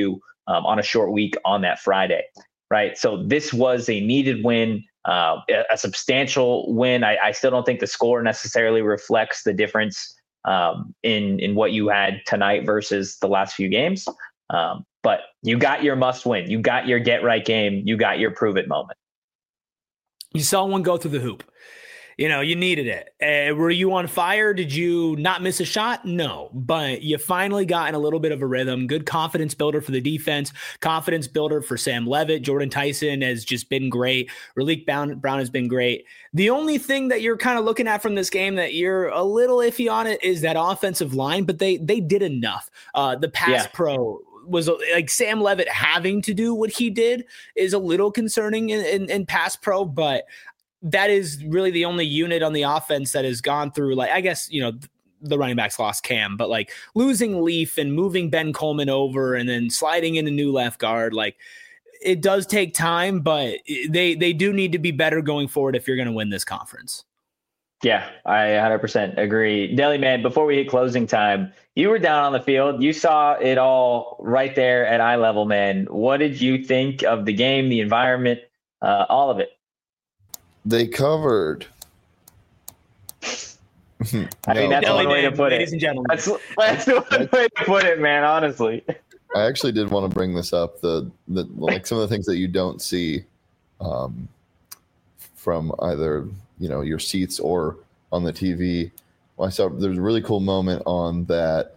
[SPEAKER 1] um, on a short week on that Friday, right? So this was a needed win, uh, a, a substantial win. I, I still don't think the score necessarily reflects the difference um, in in what you had tonight versus the last few games. Um, but you got your must win. You got your get right game. You got your prove it moment.
[SPEAKER 2] You saw one go through the hoop. You know, you needed it. Uh, were you on fire? Did you not miss a shot? No, but you finally got in a little bit of a rhythm. Good confidence builder for the defense, confidence builder for Sam Levitt. Jordan Tyson has just been great. Raleek Brown, Brown has been great. The only thing that you're kind of looking at from this game that you're a little iffy on it is that offensive line, but they they did enough. Uh, the pass yeah. pro was like Sam Levitt having to do what he did is a little concerning in, in, in pass pro, but that is really the only unit on the offense that has gone through, like, I guess, you know, the running backs lost Cam, but like losing Leaf and moving Ben Coleman over and then sliding in a new left guard, like it does take time, but they, they do need to be better going forward if you're going to win this conference.
[SPEAKER 1] Yeah, I one hundred percent agree. Deli Man, before we hit closing time, you were down on the field. You saw it all right there at eye level, man. What did you think of the game, the environment, uh, all of it?
[SPEAKER 3] They covered.
[SPEAKER 1] I no, think that's one way to put
[SPEAKER 2] ladies
[SPEAKER 1] it.
[SPEAKER 2] and gentlemen.
[SPEAKER 1] That's, that's the one way to put it, man, honestly.
[SPEAKER 3] I actually did want to bring this up, the, the like some of the things that you don't see um, from either, you know, your seats or on the T V. Well, I saw there was a really cool moment on that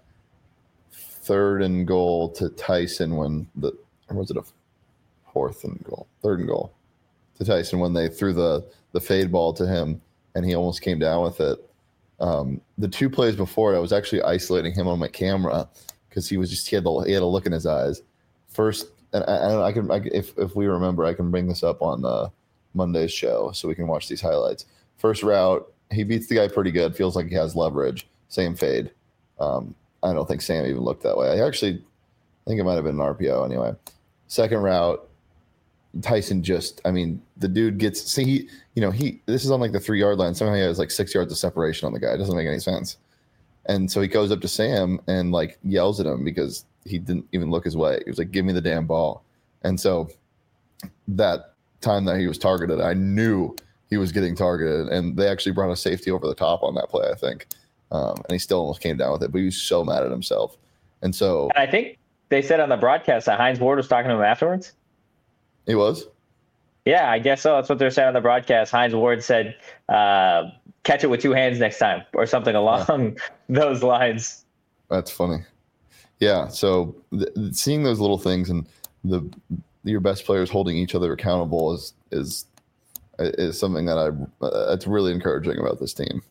[SPEAKER 3] third and goal to Tyson when the, or was it a fourth and goal? Third and goal to Tyson when they threw the, the fade ball to him and he almost came down with it. Um, the two plays before, I was actually isolating him on my camera because he was just, he had, the, he had a look in his eyes. First, and I, I can, I, if, if we remember, I can bring this up on uh, Monday's show so we can watch these highlights. First route, he beats the guy pretty good, feels like he has leverage, same fade. Um, I don't think Sam even looked that way. I actually I think it might have been an R P O anyway. Second route, Tyson just, I mean, the dude gets, see, he, you know, he, this is on like the three yard line. Somehow he has like six yards of separation on the guy. It doesn't make any sense. And so he goes up to Sam and like yells at him because he didn't even look his way. He was like, give me the damn ball. And so that time that he was targeted, I knew he was getting targeted. And they actually brought a safety over the top on that play, I think. Um, and he still almost came down with it, but he was so mad at himself. And so
[SPEAKER 1] and I think they said on the broadcast that Hines Ward was talking to him afterwards.
[SPEAKER 3] He was?
[SPEAKER 1] Yeah, I guess so. That's what they're saying on the broadcast. Hines Ward said, uh, catch it with two hands next time or something along yeah. those lines.
[SPEAKER 3] That's funny. Yeah, so th- seeing those little things and the your best players holding each other accountable is is is something that I uh, that's really encouraging about this team.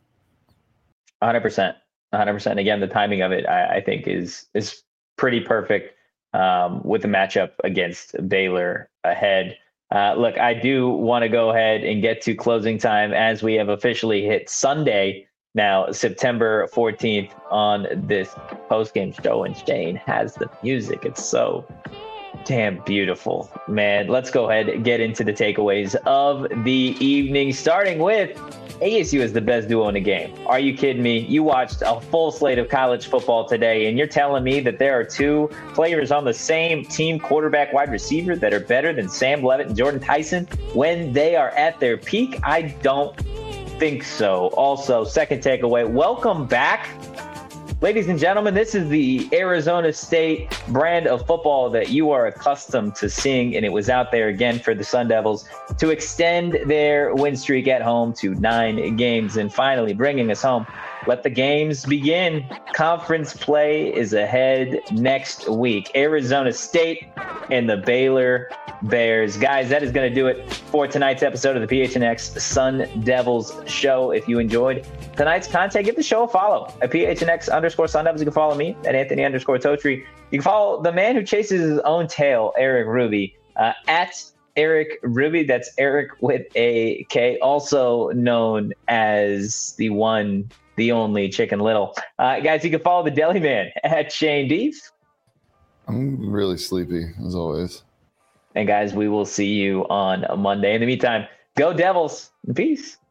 [SPEAKER 1] one hundred percent. one hundred percent. Again, the timing of it, I, I think, is is pretty perfect. Um, with the matchup against Baylor ahead. Uh, look, I do want to go ahead and get to closing time as we have officially hit Sunday now, September fourteenth on this post-game show, and Shane has the music. It's so damn beautiful, man. Let's go ahead and get into the takeaways of the evening, starting with A S U is the best duo in the game. Are you kidding me? You watched a full slate of college football today, and you're telling me that there are two players on the same team, quarterback, wide receiver, that are better than Sam Levitt and Jordan Tyson when they are at their peak? I don't think so. Also, second takeaway, welcome back. Ladies and gentlemen, this is the Arizona State brand of football that you are accustomed to seeing, and it was out there again for the Sun Devils to extend their win streak at home to nine games. And finally, bringing us home, let the games begin. Conference play is ahead next week. Arizona State and the Baylor Bears. Guys, that is going to do it for tonight's episode of the P H N X Sun Devils show. If you enjoyed tonight's content, give the show a follow at P H N X underscore Sun Devils. You can follow me at Anthony underscore Totri. You can follow the man who chases his own tail, Eric Ruby, uh, at Eric Ruby. That's Eric with a K, also known as the one, the only Chicken Little. Uh, guys, you can follow the Deli Man at Shane Deef.
[SPEAKER 3] I'm really sleepy, as always.
[SPEAKER 1] And guys, we will see you on Monday. In the meantime, go Devils. Peace.